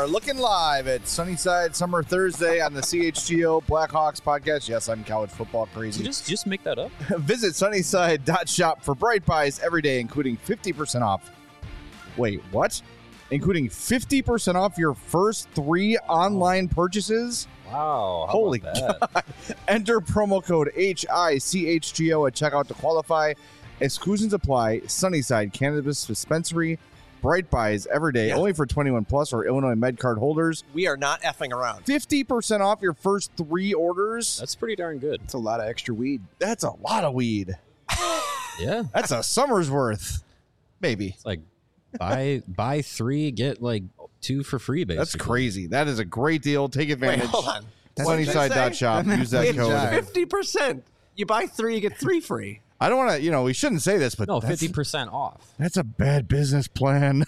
are looking live at Sunnyside Summer Thursday on the CHGO Blackhawks podcast. Yes, I'm college football crazy. Did you just make that up? Visit sunnyside.shop for bright buys every day, including 50% off. Wait, what? Including 50% off your first 3 online purchases? Wow. How Holy about that? God. Enter promo code HICHGO at checkout to qualify. Exclusions apply. Sunnyside Cannabis Dispensary. Bright buys every day, only for 21 plus or Illinois MedCard holders. We are not effing around. 50% off your first 3 orders. That's pretty darn good. That's a lot of extra weed. That's a lot of weed. Yeah. That's a summer's worth. Maybe. It's like buy 3, get like 2 for free, basically. That's crazy. That is a great deal. Take advantage. Wait, hold on. Sunnyside.shop. Use that code. 50%. You buy 3, you get 3 free. I don't want to, we shouldn't say this, but No, 50% off. That's a bad business plan.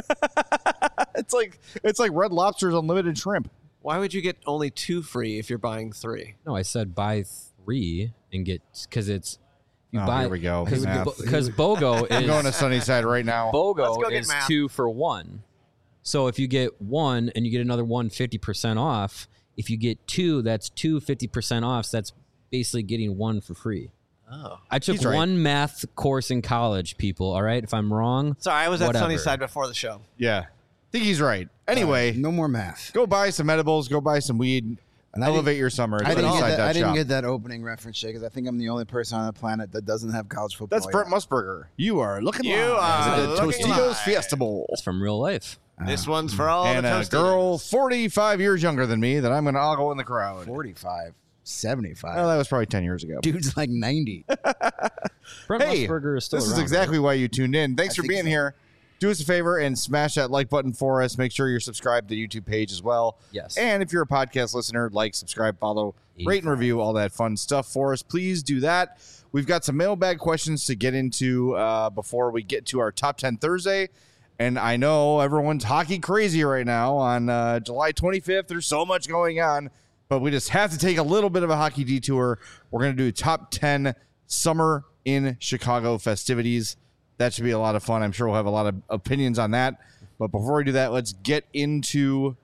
It's like Red Lobster's unlimited shrimp. Why would you get only 2 free if you're buying 3? No, I said buy 3 and get, because it's, you Oh, buy, here we go. Because Math. BOGO I'm going to is, Sunnyside right now. Let's go BOGO get is math. 2 for 1. So if you get 1 and you get another one 50% off, if you get 2, that's 2 50% off. So that's basically getting 1 for free. Oh. I took He's right. one math course in college, people. All right. If I'm wrong, Sorry, I was at whatever. Sunnyside before the show. Yeah. I think he's right. Anyway, No more math. go buy some edibles. Go buy some weed. And I Elevate your summer. At I didn't Sunnyside.shop. get that opening reference, Shay, because I think I'm the only person on the planet that doesn't have college football. That's Brent Musburger. You are looking You live are at the looking Tostitos live. Fiesta Bowl. That's from real life. This one's for all And the a Tostitos. girl 45 years younger than me that I'm going to all go in the crowd. 45, 75. Well, that was probably 10 years ago. Dude's like 90. Brent Hey, Musburger is still this is around, exactly why you tuned in. Thanks I for think being so. here. Do us a favor and smash that like button for us. Make sure you're subscribed to the YouTube page as well. Yes. And if you're a podcast listener, like, subscribe, follow, rate, and review, all that fun stuff for us. Please do that. We've got some mailbag questions to get into before we get to our Top 10 Thursday. And I know everyone's hockey crazy right now on July 25th. There's so much going on, but we just have to take a little bit of a hockey detour. We're going to do Top 10 Summer in Chicago festivities. That should be a lot of fun. I'm sure we'll have a lot of opinions on that. But before we do that, let's get into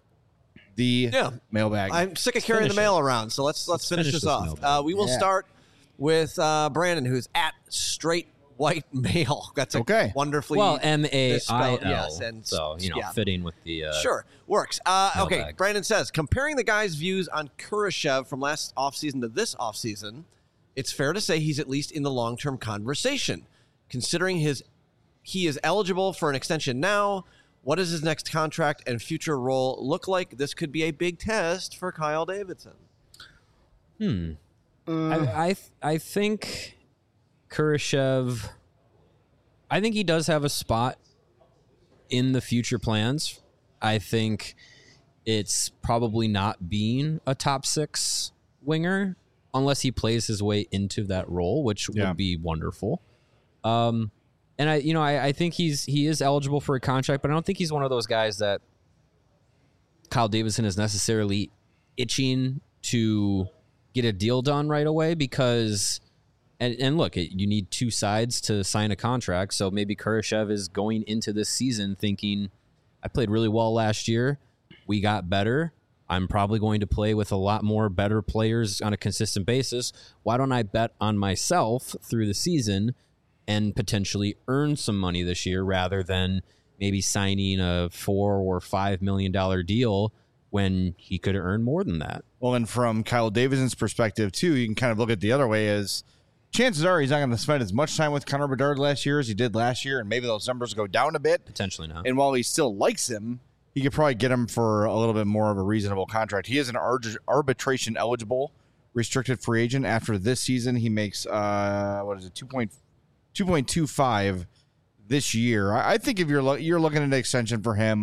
the mailbag. I'm sick of carrying the finish mail around, so let's finish this off. mailbag. We will start with Brandon, who's at Straight White Male. That's a Okay. wonderfully Well, MAIL. misspelled, yes, and so, yeah. fitting with the. Sure, works. Okay, mailbag. Brandon says, comparing the guy's views on Kurashev from last offseason to this offseason, it's fair to say he's at least in the long-term conversation. Considering he is eligible for an extension now, what does his next contract and future role look like? This could be a big test for Kyle Davidson. I think Kurashev. I think he does have a spot in the future plans. I think it's probably not being a top 6 winger unless he plays his way into that role, which would be wonderful. And I think he is eligible for a contract, but I don't think he's one of those guys that Kyle Davidson is necessarily itching to get a deal done right away because, and look, you need 2 sides to sign a contract. So maybe Kurashev is going into this season thinking, I played really well last year. We got better. I'm probably going to play with a lot more better players on a consistent basis. Why don't I bet on myself through the season and potentially earn some money this year rather than maybe signing a $4 or $5 million deal when he could earn more than that? Well, and from Kyle Davidson's perspective, too, you can kind of look at the other way as chances are he's not going to spend as much time with Connor Bedard last year as he did last year, and maybe those numbers go down a bit. Potentially not. And while he still likes him, he could probably get him for a little bit more of a reasonable contract. He is an arbitration eligible restricted free agent. After this season, he makes, 2.25 this year. I think if you're looking at an extension for him,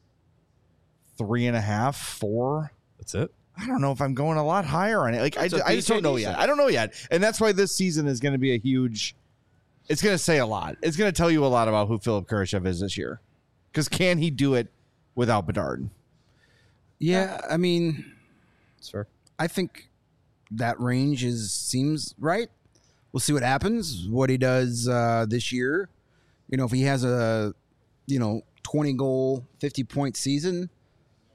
3.5, 4. That's it. I don't know if I'm going a lot higher on it. Like I just don't know yet. decent. I don't know yet, and that's why this season is going to be a huge. It's going to say a lot. It's going to tell you a lot about who Philip Kurashev is this year, because can he do it without Bedard? Yeah, I mean, That's fair. I think that range seems right. We'll see what happens, what he does this year. If he has a 20-goal, 50-point season,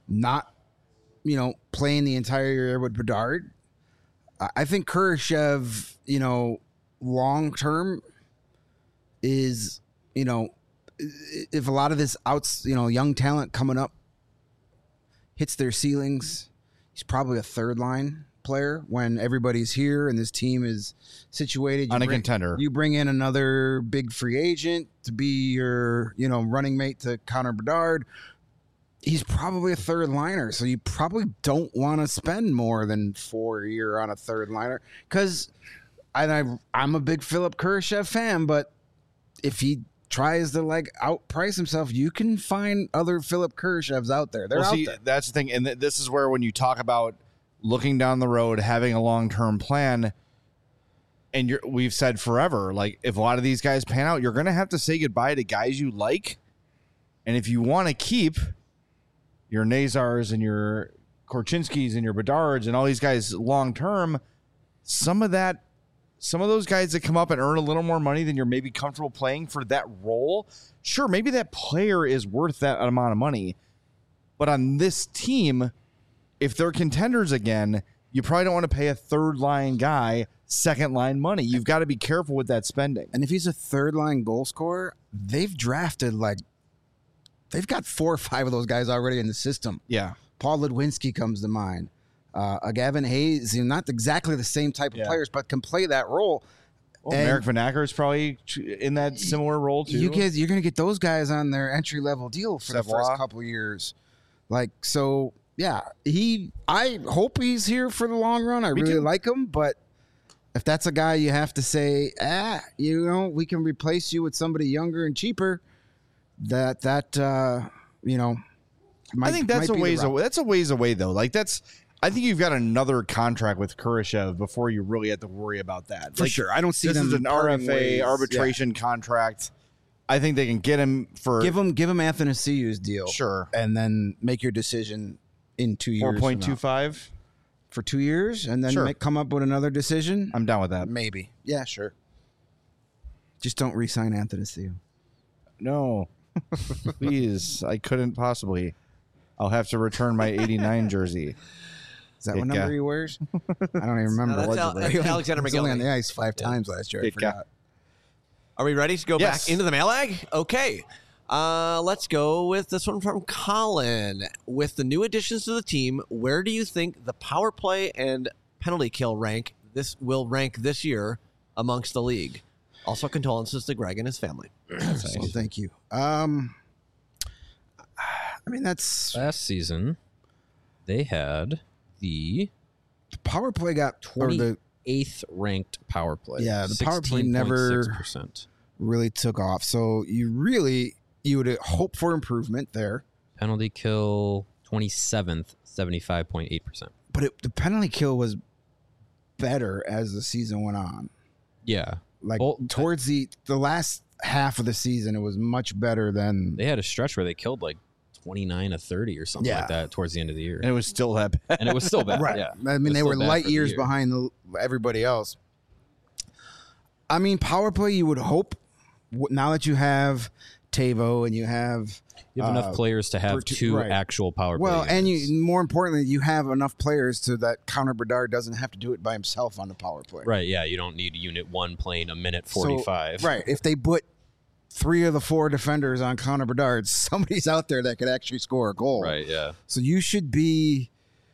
not, playing the entire year with Bedard. I think Kurashev, long term is, if a lot of this young talent coming up hits their ceilings, he's probably a third line player when everybody's here and this team is situated. On a contender. You bring in another big free agent to be your, running mate to Connor Bedard. He's probably a third liner, so you probably don't want to spend more than $4 a year on a third liner. Because I'm a big Philip Kurashev fan, but if he tries to outprice himself, you can find other Philip Kurashevs out there. They're out there. That's the thing, and this is where when you talk about looking down the road, having a long-term plan, and we've said forever, if a lot of these guys pan out, you're going to have to say goodbye to guys you like, and if you want to keep your Nazars and your Korchinskis and your Bedards and all these guys long-term, some of those guys that come up and earn a little more money than you're maybe comfortable playing for that role, sure, maybe that player is worth that amount of money. But on this team, if they're contenders again, you probably don't want to pay a third-line guy second-line money. You've got to be careful with that spending. And if he's a third-line goal scorer, they've drafted, they've got 4 or 5 of those guys already in the system. Yeah. Paul Ludwinski comes to mind. Gavin Hayes, not exactly the same type of players, but can play that role. Well, Merrick Van Acker is probably in that similar role too. You're going to get those guys on their entry level deal for the first couple of years. I hope he's here for the long run. I really like him, but if that's a guy you have to say, we can replace you with somebody younger and cheaper, I think that's a ways away. That's a ways away though. I think you've got another contract with Kurashev before you really have to worry about that. For sure. I don't see this them is an RFA arbitration contract. I think they can get him for give him Athanasiou's deal. Sure. And then make your decision in 2 years. 4.25 for 2 years and then come up with another decision. I'm down with that. Maybe. Yeah, sure. Just don't re-sign Athanasiou. No. Please. I couldn't possibly. I'll have to return my 89 jersey. Is that what number he wears? I don't even remember. No, that's Alexander McGillivray. He was only on the ice 5 times last year. I forgot. Are we ready to go back into the mailbag? Okay. Let's go with this one from Colin. With the new additions to the team, where do you think the power play and penalty kill will rank this year amongst the league? Also, condolences to Greg and his family. Well, thank you. That's last season. They had the power play got 28th ranked power play. Yeah, the power play never really took off. So you would hope for improvement there. Penalty kill 27th, 75.8%. But the penalty kill was better as the season went on. Yeah. Towards the last half of the season, it was much better than... They had a stretch where they killed 29 to 30 or something like that towards the end of the year. And it was still that bad. And it was still bad. Right. Yeah. I mean, they were light years behind everybody else. I mean, power play, you would hope, now that you have Tavo and you have enough players to have two actual power play units. And more importantly, you have enough players so that Connor Bedard doesn't have to do it by himself on the power play. Right, yeah. You don't need Unit 1 playing a minute 45. So, right. If they put 3 of the 4 defenders on Connor Bedard, somebody's out there that could actually score a goal. Right, yeah. So you should be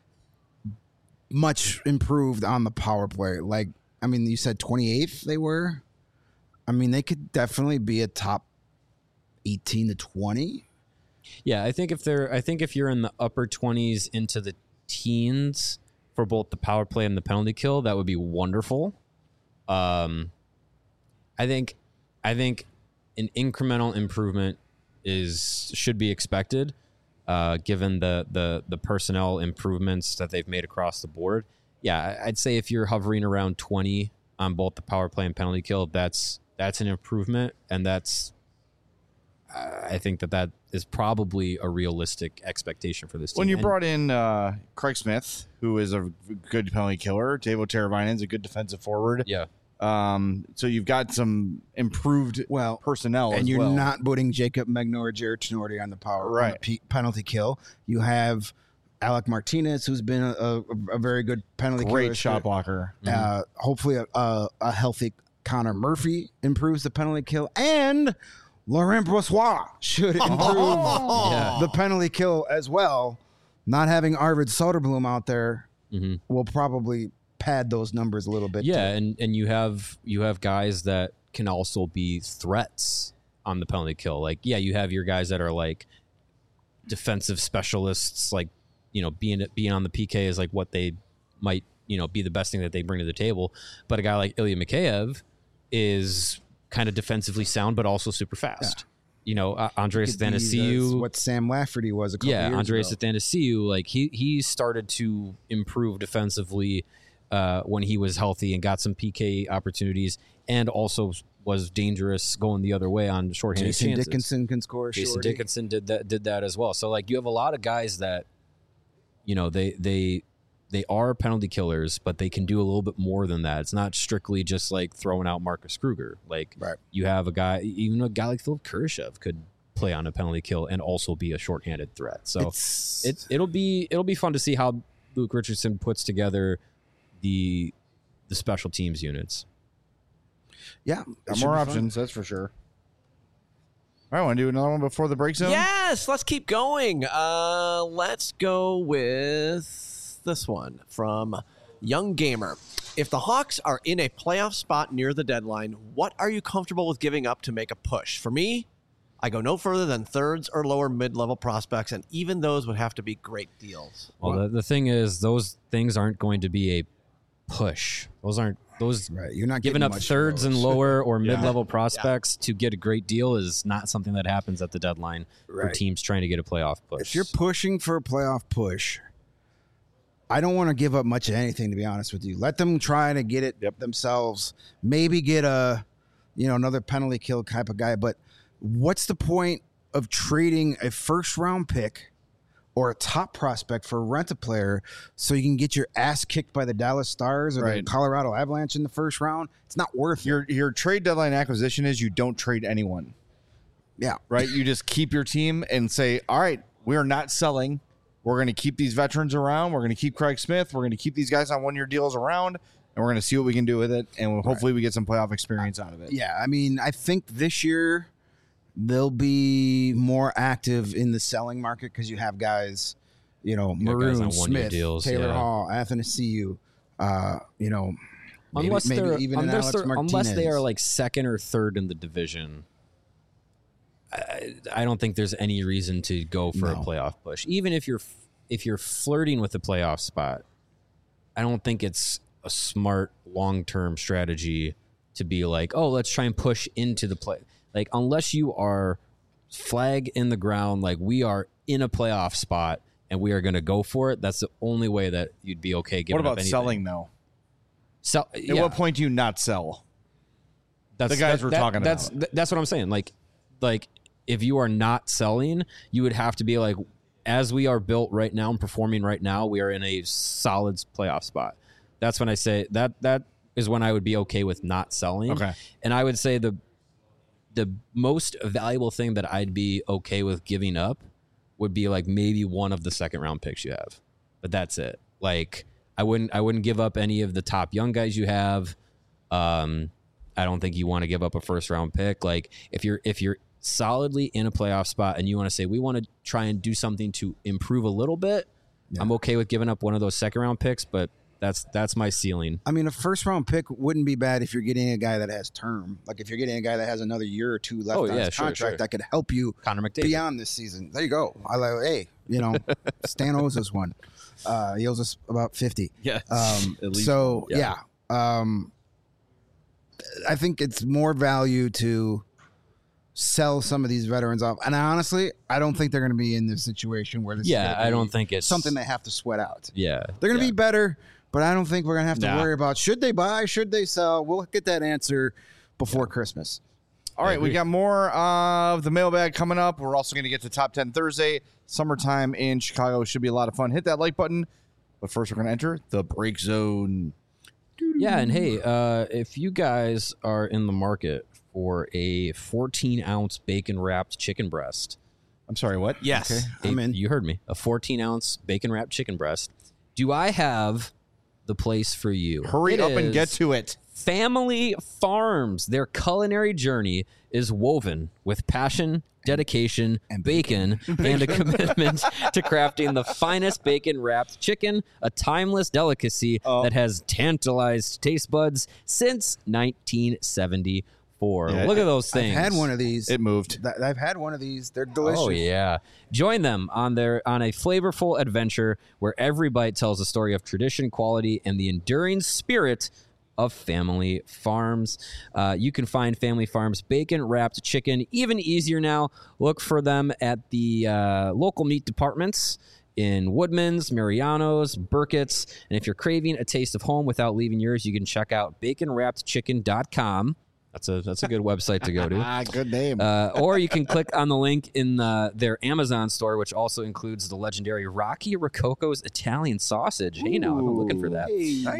much improved on the power play. You said 28th they were? They could definitely be a top 18 to 20. Yeah, I think if you're in the upper 20s into the teens for both the power play and the penalty kill, that would be wonderful. I think an incremental improvement should be expected, given the personnel improvements that they've made across the board. Yeah, I'd say if you're hovering around 20 on both the power play and penalty kill, that's an improvement, and I think that is probably a realistic expectation for this team. When you brought in Craig Smith, who is a good penalty killer, Teuvo Teravainen is a good defensive forward. Yeah. So you've got some improved personnel, and as you're well. not putting Jacob Megna or Jared Tenorti on the power Right. on the penalty kill. You have Alec Martinez, who's been a very good penalty Great killer. shot blocker. Hopefully, a healthy Connor Murphy improves the penalty kill, and Laurent Brossois should improve the penalty kill as well. Not having Arvid Soderblom out there will probably pad those numbers a little bit. Yeah, and you have guys that can also be threats on the penalty kill. Like, yeah, you have your guys that are like defensive specialists, like, you know, being on the PK is like what they might, you know, be the best thing that they bring to the table. But a guy like Ilya Mikheyev is kind of defensively sound, but also super fast. You know, Andreas Athanasiou, what Sam Lafferty was a couple years Andreas ago. Athanasiou, like he started to improve defensively when he was healthy and got some PK opportunities, and also was dangerous going the other way on shorthanded Jason chances. Dickinson can score. Jason shorty. Dickinson did that as well. So like you have a lot of guys that, you know, they are penalty killers, but they can do a little bit more than that. It's not strictly just like throwing out Marcus Kruger. Like you have a guy, even a guy like Philip Kurashev could play on a penalty kill and also be a shorthanded threat. So it'll be fun to see how Luke Richardson puts together the special teams units. Yeah, Got more options, that's for sure. All right, want to do another one before the break zone? Yes, let's keep going. Let's go with this one from Young Gamer. If the Hawks are in a playoff spot near the deadline, what are you comfortable with giving up to make a push? For me, I go no further than thirds or lower mid-level prospects, and even those would have to be great deals. Well, the thing is, those things aren't going to be a push. Those You're not giving getting up much thirds for and those. lower or mid-level prospects to get a great deal is not something that happens at the deadline for teams trying to get a playoff push. If you're pushing for a playoff push, I don't want to give up much of anything, to be honest with you. Let them try to get it themselves. Maybe get another penalty kill type of guy. But what's the point of trading a first round pick or a top prospect for a rent-a-player so you can get your ass kicked by the Dallas Stars or the Colorado Avalanche in the first round? It's not worth it. Your trade deadline acquisition is you don't trade anyone. Yeah. Right? You just keep your team and say, all right, we are not selling. We're going to keep these veterans around. We're going to keep Craig Smith. We're going to keep these guys on one-year deals around, and we're going to see what we can do with it, and hopefully we get some playoff experience out of it. Yeah, I mean, I think this year they'll be more active in the selling market because you have guys, you know, You got guys Maroon, on one-year Smith, deals, Taylor Hall, Athanasiou, you know, unless maybe even an Alex Martinez. unless they are like second or third in the division, I don't think there's any reason to go for a playoff push. Even if you're flirting with a playoff spot, I don't think it's a smart long-term strategy to be like, oh, let's try and push into the play. Like, unless you are flag in the ground, like we are in a playoff spot and we are going to go for it, that's the only way that you'd be okay giving What up about anything. selling, though? Yeah. At what point do you not sell? That's the guys we're talking that's, about. That's what I'm saying. Like if you are not selling, you would have to be like, as we are built right now and performing right now, we are in a solid playoff spot. That's when I say that is when I would be okay with not selling. Okay. And I would say the most valuable thing that I'd be okay with giving up would be like maybe one of the second round picks you have, but that's it. Like I wouldn't give up any of the top young guys you have. I don't think you want to give up a first round pick. Like if you're solidly in a playoff spot and you want to say we want to try and do something to improve a little bit, I'm okay with giving up one of those second round picks, but that's my ceiling. I mean, a first round pick wouldn't be bad if you're getting a guy that has term. Like if you're getting a guy that has another year or two left on his contract that could help you Connor McDavid beyond this season. There you go. I like, hey, you know, Stan owes us one. He owes us about 50. Yeah. At least so yeah. I think it's more value to sell some of these veterans off. And honestly, I don't think they're going to be in this situation where this is I don't think it's something they have to sweat out. Yeah. They're going to be better, but I don't think we're going to have to worry about should they buy, should they sell. We'll get that answer before Christmas. All right, we got more of the mailbag coming up. We're also going to get to Top 10 Thursday. Summertime in Chicago should be a lot of fun. Hit that like button. But first, we're going to enter the break zone. Yeah, and hey, if you guys are in the market for a 14-ounce bacon-wrapped chicken breast, I'm sorry, what? Yes. I'm in. You heard me. A 14-ounce bacon-wrapped chicken breast. Do I have the place for you? Hurry It up and get is to it. Family Farms. Their culinary journey is woven with passion, dedication, and bacon, and a commitment to crafting the finest bacon-wrapped chicken, a timeless delicacy that has tantalized taste buds since 1974. Yeah, Look at those things. I've had one of these. It moved. I've had one of these. They're delicious. Oh yeah. Join them on a flavorful adventure where every bite tells a story of tradition, quality, and the enduring spirit of Family Farms. You can find Family Farms bacon wrapped chicken even easier now. Look for them at the local meat departments in Woodman's, Mariano's, Burkett's. And if you're craving a taste of home without leaving yours, you can check out baconwrappedchicken.com. That's a good website to go to. Good name. Or you can click on the link in their Amazon store, which also includes the legendary Rocky Rococo's Italian sausage. Hey, now I'm looking for that.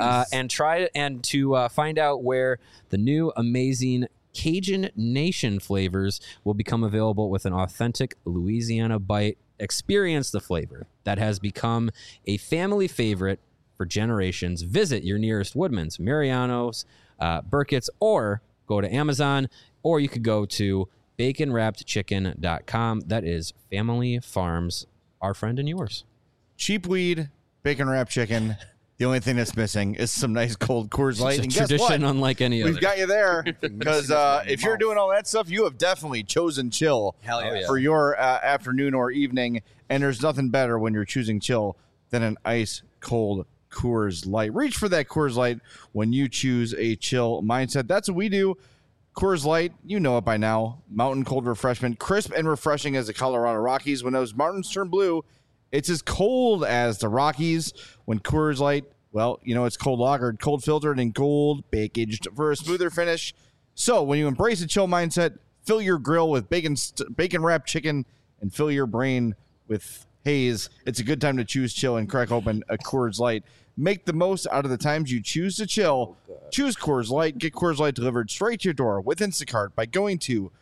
And to find out where the new amazing Cajun Nation flavors will become available with an authentic Louisiana bite. Experience the flavor that has become a family favorite for generations. Visit your nearest Woodman's, Mariano's, Burkett's, or go to Amazon, or you could go to baconwrappedchicken.com. That is Family Farms, our friend and yours. Cheap weed, bacon wrapped chicken. The only thing that's missing is some nice cold Coors Light. It's a And guess tradition what? unlike any other. We've got you there because if you're doing all that stuff, you have definitely chosen chill Hell yeah. for your afternoon or evening. And there's nothing better when you're choosing chill than an ice cold Coors Light. Reach for that Coors Light when you choose a chill mindset. That's what we do. Coors Light, you know it by now. Mountain cold refreshment, crisp and refreshing as the Colorado Rockies. When those mountains turn blue, it's as cold as the Rockies. When Coors Light, well, you know, it's cold lagered, cold filtered, and cold packaged for a smoother finish. So when you embrace a chill mindset, fill your grill with bacon wrapped chicken and fill your brain with haze. It's a good time to choose chill and crack open a Coors Light. Make the most out of the times you choose to chill. Choose Coors Light. Get Coors Light delivered straight to your door with Instacart by going to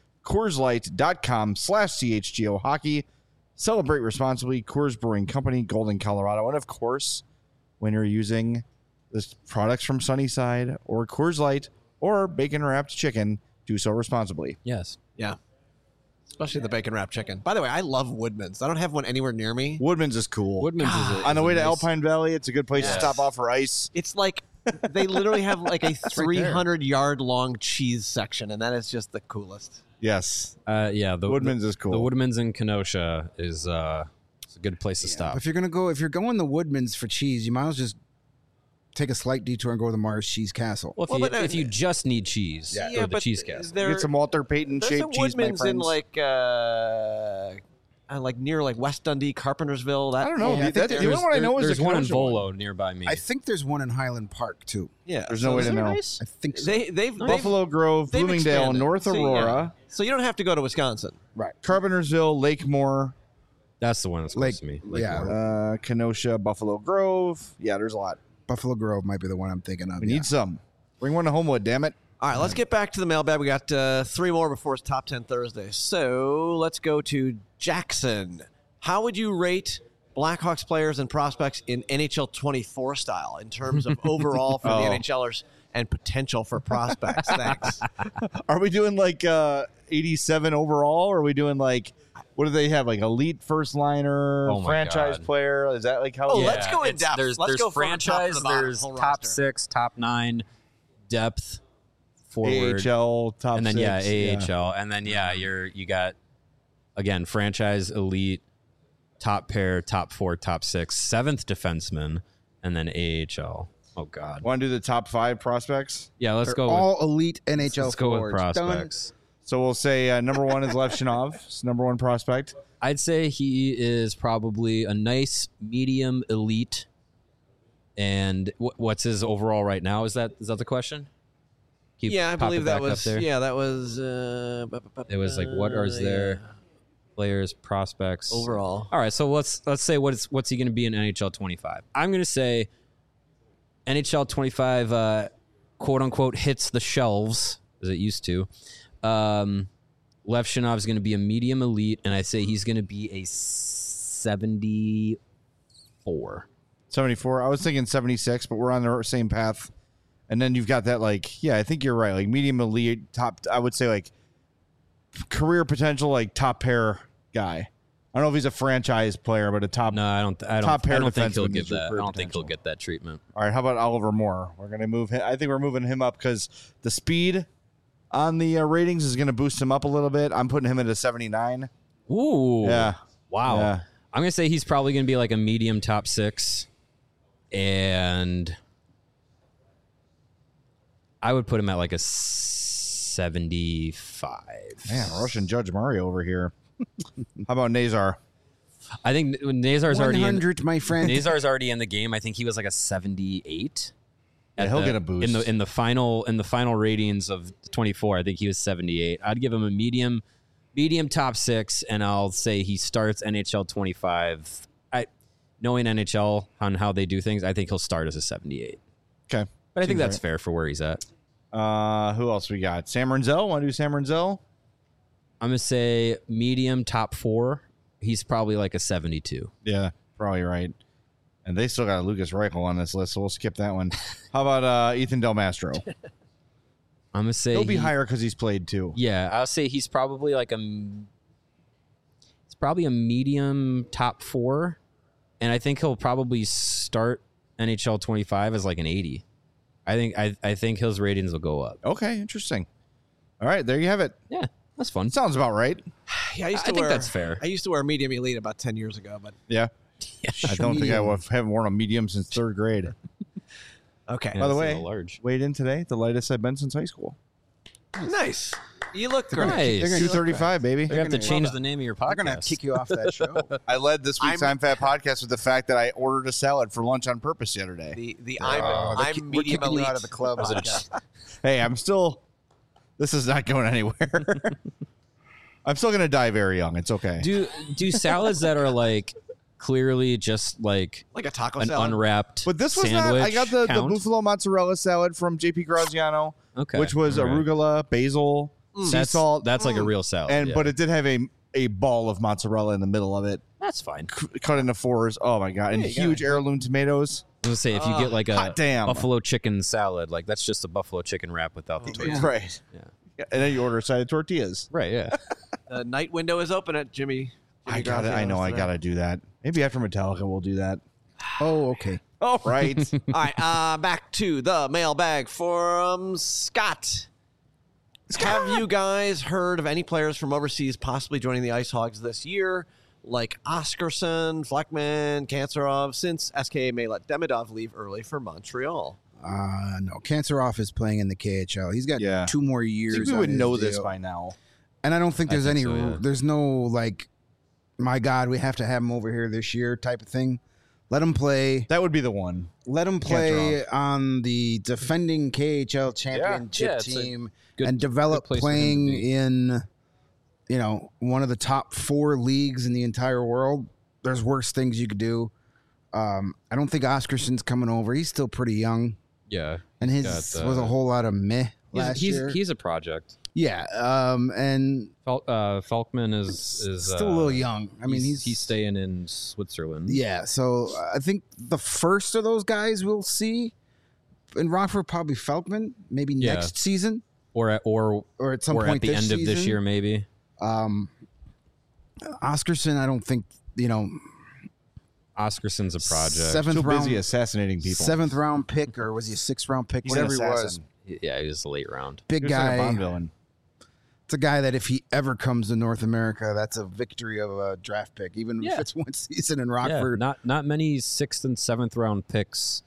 CoorsLight.com/CHGO Hockey. Celebrate responsibly. Coors Brewing Company, Golden, Colorado. And of course, when you're using the products from Sunnyside or Coors Light or bacon wrapped chicken, do so responsibly. Yes. Yeah. Especially the bacon wrapped chicken. By the way, I love Woodman's. I don't have one anywhere near me. Woodman's is cool. Woodman's On the way to Alpine Valley, it's a good place to stop off for ice. It's like they literally have like a 300-yard long cheese section, and that is just the coolest. Yes. The Woodman's is cool. The Woodman's in Kenosha is it's a good place to stop. If you're going to Woodman's for cheese, you might as well just take a slight detour and go to the Mars Cheese Castle. Well, if you just need cheese, go to the Cheese Castle. Get some Walter Payton There's a shaped cheese, my Woodman's friends. in like near like West Dundee, Carpentersville. That I don't know. Yeah, I think the only one I know is there's the one in Kenosha one. Volo nearby me. I think there's one in Highland Park too. Yeah, There's no way to know. I think so. They've Buffalo Grove, they've Bloomingdale, expanded. North So, yeah. Aurora, So you don't have to go to Wisconsin. Right. Carpentersville, Lakemore, That's the one that's close to me. Yeah. Kenosha, Buffalo Grove. Yeah, there's a lot. Buffalo Grove might be the one I'm thinking of. We yeah. need some. Bring one to Homewood, damn it. All right, let's get back to the mailbag. We got 3 more before it's Top 10 Thursday. So let's go to Jackson. How would you rate Blackhawks players and prospects in NHL 24 style in terms of overall for the NHLers and potential for prospects? Thanks. Are we doing like 87 overall? Or are we doing like, what do they have? Like elite first liner, Oh my franchise God. player? Is that like how? Oh, let's go in depth. There's Let's go from the top to franchise, the bottom, there's whole top roster. 6, top 9, depth, forward, AHL, top and then 6. AHL, and then you got again franchise, elite, top pair, top 4, top 6, 7th defenseman, and then AHL. Oh God. Want to do the top 5 prospects? Yeah, let's They're go. all elite NHL Let's go with forwards. Done. prospects. So we'll say number 1 is Lev Shinov. It's number 1 prospect. I'd say he is probably a nice medium elite. And what's his overall right now? Is that the question? Keep Yeah, I pop believe it that back up was. there. Yeah, that was. It was like what are their players, prospects overall? All right, so let's say what's he going to be in NHL 25? I'm going to say NHL 25 quote unquote hits the shelves as it used to. Levshinov is going to be a medium elite, and I say he's going to be a 74. 74. I was thinking 76, but we're on the same path. And then you've got that, like, yeah, I think you're right. Like medium elite, top, I would say like career potential, like top pair guy. I don't know if he's a franchise player, but a top. No, I don't top pair think he'll defenseman get is your that. I career don't think he'll potential. get that treatment. All right, how about Oliver Moore? We're going to move him. I think we're moving him up because the speed on the ratings is going to boost him up a little bit. I'm putting him at a 79. Ooh. Yeah. Wow. Yeah. I'm going to say he's probably going to be like a medium top 6. And I would put him at like a 75. Man, Russian Judge Mario over here. How about Nazar? I think Nazar's already in. 100, my friend. Nazar's already in the game. I think he was like a 78. Yeah, he'll get a boost. in the final ratings of 24. I think he was 78. I'd give him a medium top 6, and I'll say he starts NHL 25. Knowing NHL on how they do things, I think he'll start as a 78. Okay. But I think Seems that's right. fair for where he's at. Who else we got? Sam Renzel? Want to do Sam Renzel? I'm going to say medium top 4. He's probably like a 72. Yeah, probably right. And they still got Lucas Reichel on this list, so we'll skip that one. How about Ethan Del Mastro? I'm going to say He'll be higher because he's played too. Yeah, I'll say he's probably like a medium top 4. And I think he'll probably start NHL 25 as like an 80. I think his ratings will go up. Okay, interesting. All right, there you have it. Yeah, that's fun. Sounds about right. Yeah, I think that's fair. I used to wear medium elite about 10 years ago, but Yeah. I don't think I haven't worn a medium since 3rd grade. okay. Yeah, By the it's a way, little large. weighed in today, the lightest I've been since high school. Nice. You look great. Nice. 235, baby. They're going to have to gonna- change the name of your podcast. They're going to kick you off that show. I led this week's I'm Fat podcast with the fact that I ordered a salad for lunch on purpose the other day. I'm we're medium kicking elite. you out of the club. Hey, I'm still. This is not going anywhere. I'm still going to die very young. It's okay. Do salads that are like clearly just like Like a taco an salad. unwrapped But this was not. sandwich I got the count? buffalo mozzarella salad from JP Graziano, Okay. which was All right. arugula, basil, sea That's salt, That's like a real salad. and yeah. but it did have a ball of mozzarella in the middle of it, that's fine. cut into 4s. Oh my god! And There you go. huge heirloom tomatoes. I was gonna say if you get like a hot damn. buffalo chicken salad, like that's just a buffalo chicken wrap without the tortilla. Right. Yeah. And then you order a side of tortillas. Right. Yeah. The night window is open at Jimmy. I got it. I know. I gotta do that. Maybe after Metallica, we'll do that. Oh, okay. All right. All right, back to the mailbag from Scott. Have you guys heard of any players from overseas possibly joining the Ice Hogs this year, like Oscarson, Fleckman, Kanserov, since SKA may let Demidov leave early for Montreal? No, Kanserov is playing in the KHL. He's got Yeah. 2 more I years. think we on would his know this deal. by now. And I don't think there's think any. so, yeah. There's no like, my God, we have to have him over here this year type of thing. Let him play. That would be the one. Let him play on the defending KHL championship Yeah, it's a team good- and develop good place for him to playing be. in, one of the top 4 leagues in the entire world. There's worse things you could do. I don't think Oscarson's coming over. He's still pretty young, Yeah. and his Got, was a whole lot of meh last year. He's a project. Yeah, and Falkman is still a little young. I mean, he's staying in Switzerland. Yeah, so I think the first of those guys we'll see in Rockford, probably Felkman, maybe Yeah. next season Or at at some or point at the this end of this season. year, maybe. Oscarson, I don't think Oscarson's a project. seventh Too round, busy assassinating people. 7th round pick, or was he a 6th round pick? He's an Whatever he was, assassin. Yeah, he was a late round. big He was like a Bond guy. villain. It's a guy that if he ever comes to North America, that's a victory of a draft pick, even Yeah. if it's one season in Yeah, Rockford. not many 6th and 7th round picks,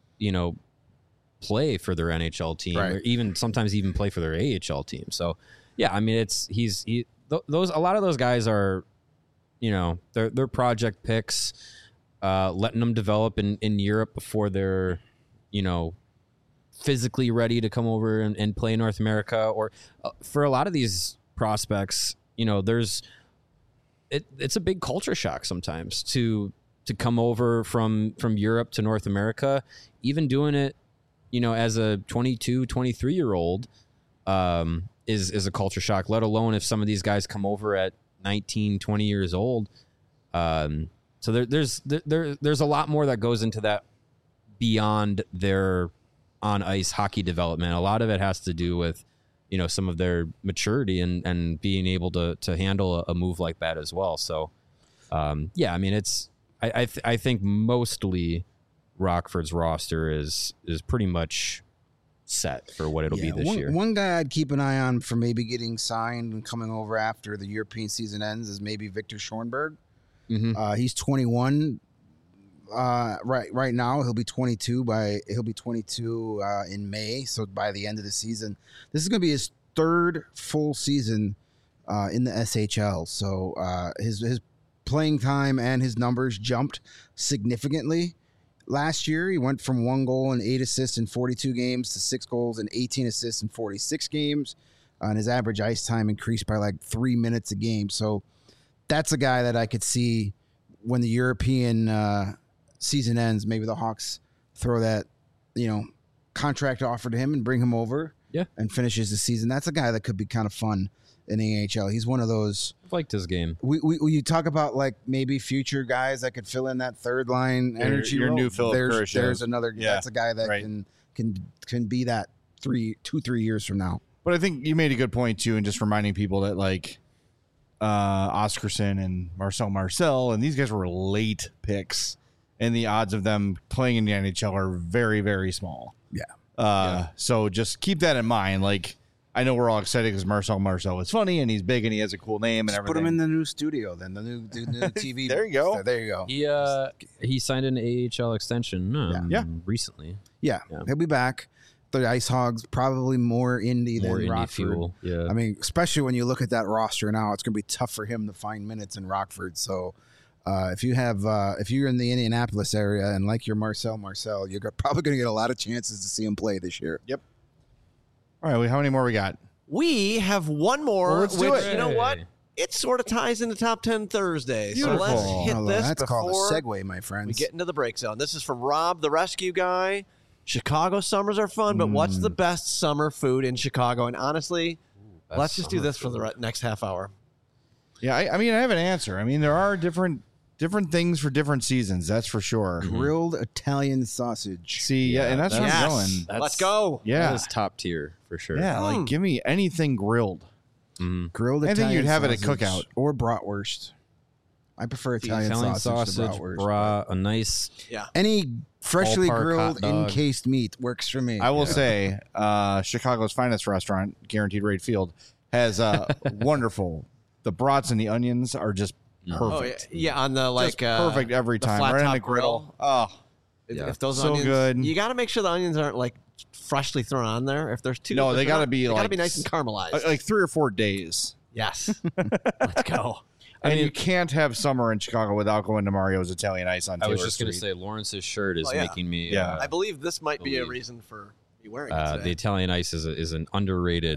play for their NHL team, Right. or even sometimes even play for their AHL team. So, yeah, I mean, those a lot of those guys are, they're project picks, letting them develop in Europe before they're, physically ready to come over and play North America. Or for a lot of these prospects, it's a big culture shock sometimes to come over from Europe to North America. Even doing it as a 22, 23-year-old, is a culture shock, let alone if some of these guys come over at 19, 20 years old. So there's a lot more that goes into that beyond their on ice hockey development. A lot of it has to do with, some of their maturity and being able to handle a move like that as well. So, I mean, I think mostly Rockford's roster is pretty much set for what it'll be this year. One guy I'd keep an eye on for maybe getting signed and coming over after the European season ends is maybe Victor Schornberg. Mm-hmm. He's 21 right now. He'll be 22 in May. So by the end of the season, this is going to be his third full season in the SHL. So his playing time and his numbers jumped significantly. Last year, he went from 1 goal and 8 assists in 42 games to 6 goals and 18 assists in 46 games. And his average ice time increased by like 3 minutes a game. So that's a guy that I could see when the European season ends. Maybe the Hawks throw that, contract offer to him and bring him over and finishes the season. That's a guy that could be kind of fun in the AHL. He's one of those. I've liked his game. You talk about like maybe future guys that could fill in that third line energy your role. new Philip Kurashev. There's another. Yeah. That's a guy that can be that 3 years from now. But I think you made a good point too, and just reminding people that like Oscarson and Marcel and these guys were late picks, and the odds of them playing in the NHL are very, very small. Yeah. So just keep that in mind. Like, I know we're all excited because Marcel is funny and he's big and he has a cool name and everything. Put him in the new studio, then the new TV. There you go. There you go. He signed an AHL extension recently. Yeah, he'll be back. The Ice Hogs probably more indie than Rockford. Fuel. Yeah. I mean, especially when you look at that roster now, it's going to be tough for him to find minutes in Rockford. So if you're in the Indianapolis area and like your Marcel, you're probably going to get a lot of chances to see him play this year. Yep. All right, how many more we got? We have one more. Well, let's do it. You know what? It sort of ties into Top 10 Thursday. So let's hit this That's called a before segue, my friends. we get into the break zone. This is from Rob, the rescue guy. Chicago summers are fun, but what's the best summer food in Chicago? And honestly, let's just do this for the next half hour. Yeah, I mean, I have an answer. I mean, there are different things for different seasons. That's for sure. Grilled Italian sausage. See, and that's where I'm going. Let's go. Yeah, That is top tier for sure. yeah. Like, give me anything grilled. Grilled I think Italian you'd have it at sausage cookout. or bratwurst. I prefer Italian sausage to bratwurst. brat, a nice. Yeah. Any freshly Ballpark grilled, hot dog. encased meat works for me. I will say, Chicago's finest restaurant, Guaranteed Rate Field, has wonderful. The brats and the onions are just perfect. Oh, yeah, on the Just perfect every the time. flat Right on top the griddle. Oh, If those So onions, good. you got to make sure the onions aren't like freshly thrown on there. If there's two, No, if they they're gotta not- be they gotta like be nice and caramelized. like 3 or 4 days. Yes, let's go. And you can't have summer in Chicago without going to Mario's Italian Ice on I Taylor was just going to Street. say, Lawrence's shirt is Oh, yeah. making me. Yeah. I believe this might be a believe. reason for me wearing it The today. Italian Ice is an underrated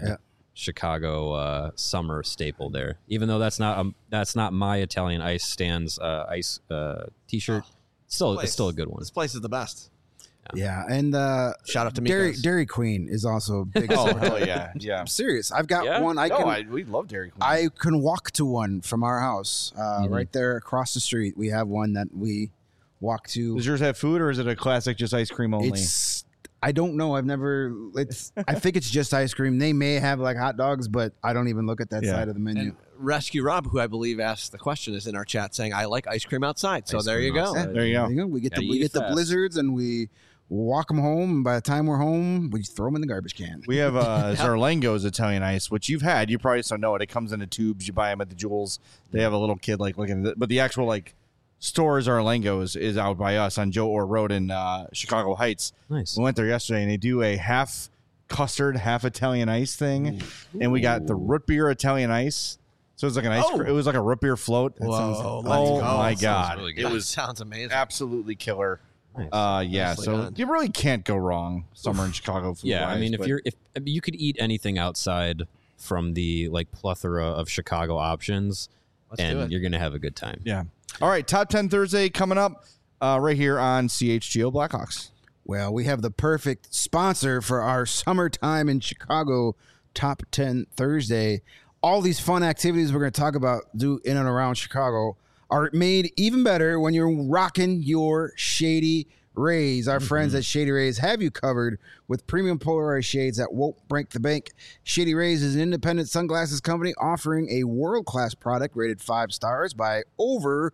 Chicago summer staple there. Even though that's not my Italian Ice stands ice T-shirt. It's still a good one. This place is the best. Yeah, and Shout out to Dairy, Migos. Dairy Queen is also a big. Oh, hell yeah. Yeah. I'm serious. I've got Yeah? one. We love Dairy Queen. I can walk to one from our house, right there across the street. We have one that we walk to. Does yours have food or is it a classic just ice cream only? I don't know. I've never. I think it's just ice cream. They may have like hot dogs, but I don't even look at that Yeah. side of the menu. And Rescue Rob, who I believe asked the question, is in our chat saying, "I like ice cream outside." So Ice there you cream go. outside. There you go. We get Gotta we eat get the fast. blizzards and we walk them home. And by the time we're home, we just throw them in the garbage can. We have Zarlengo's Italian Ice, which you've had. You probably just don't know it. It comes in the tubes. You buy them at the Jewels. They have a little kid like looking at it. But the actual like store Zarlengo's is out by us on Joe Orr Road in Chicago Heights. Nice. We went there yesterday and they do a half custard, half Italian ice thing. And we got the root beer Italian ice. So it's like an ice cream. It was like a root beer float. Whoa, let's Oh go. my That God. really good. It was sounds amazing. absolutely killer. Nice. Yeah, Nicely so done. you really can't go wrong summer in Chicago food. Yeah, I mean, if you could eat anything outside from the like plethora of Chicago options, Let's do and it. you're gonna have a good time. Yeah. All right, Top 10 Thursday coming up right here on CHGO Blackhawks. Well, we have the perfect sponsor for our summertime in Chicago Top 10 Thursday. All these fun activities we're going to talk about do in and around Chicago are made even better when you're rocking your Shady Rays. Our friends at Shady Rays have you covered with premium polarized shades that won't break the bank. Shady Rays is an independent sunglasses company offering a world-class product rated 5 stars by over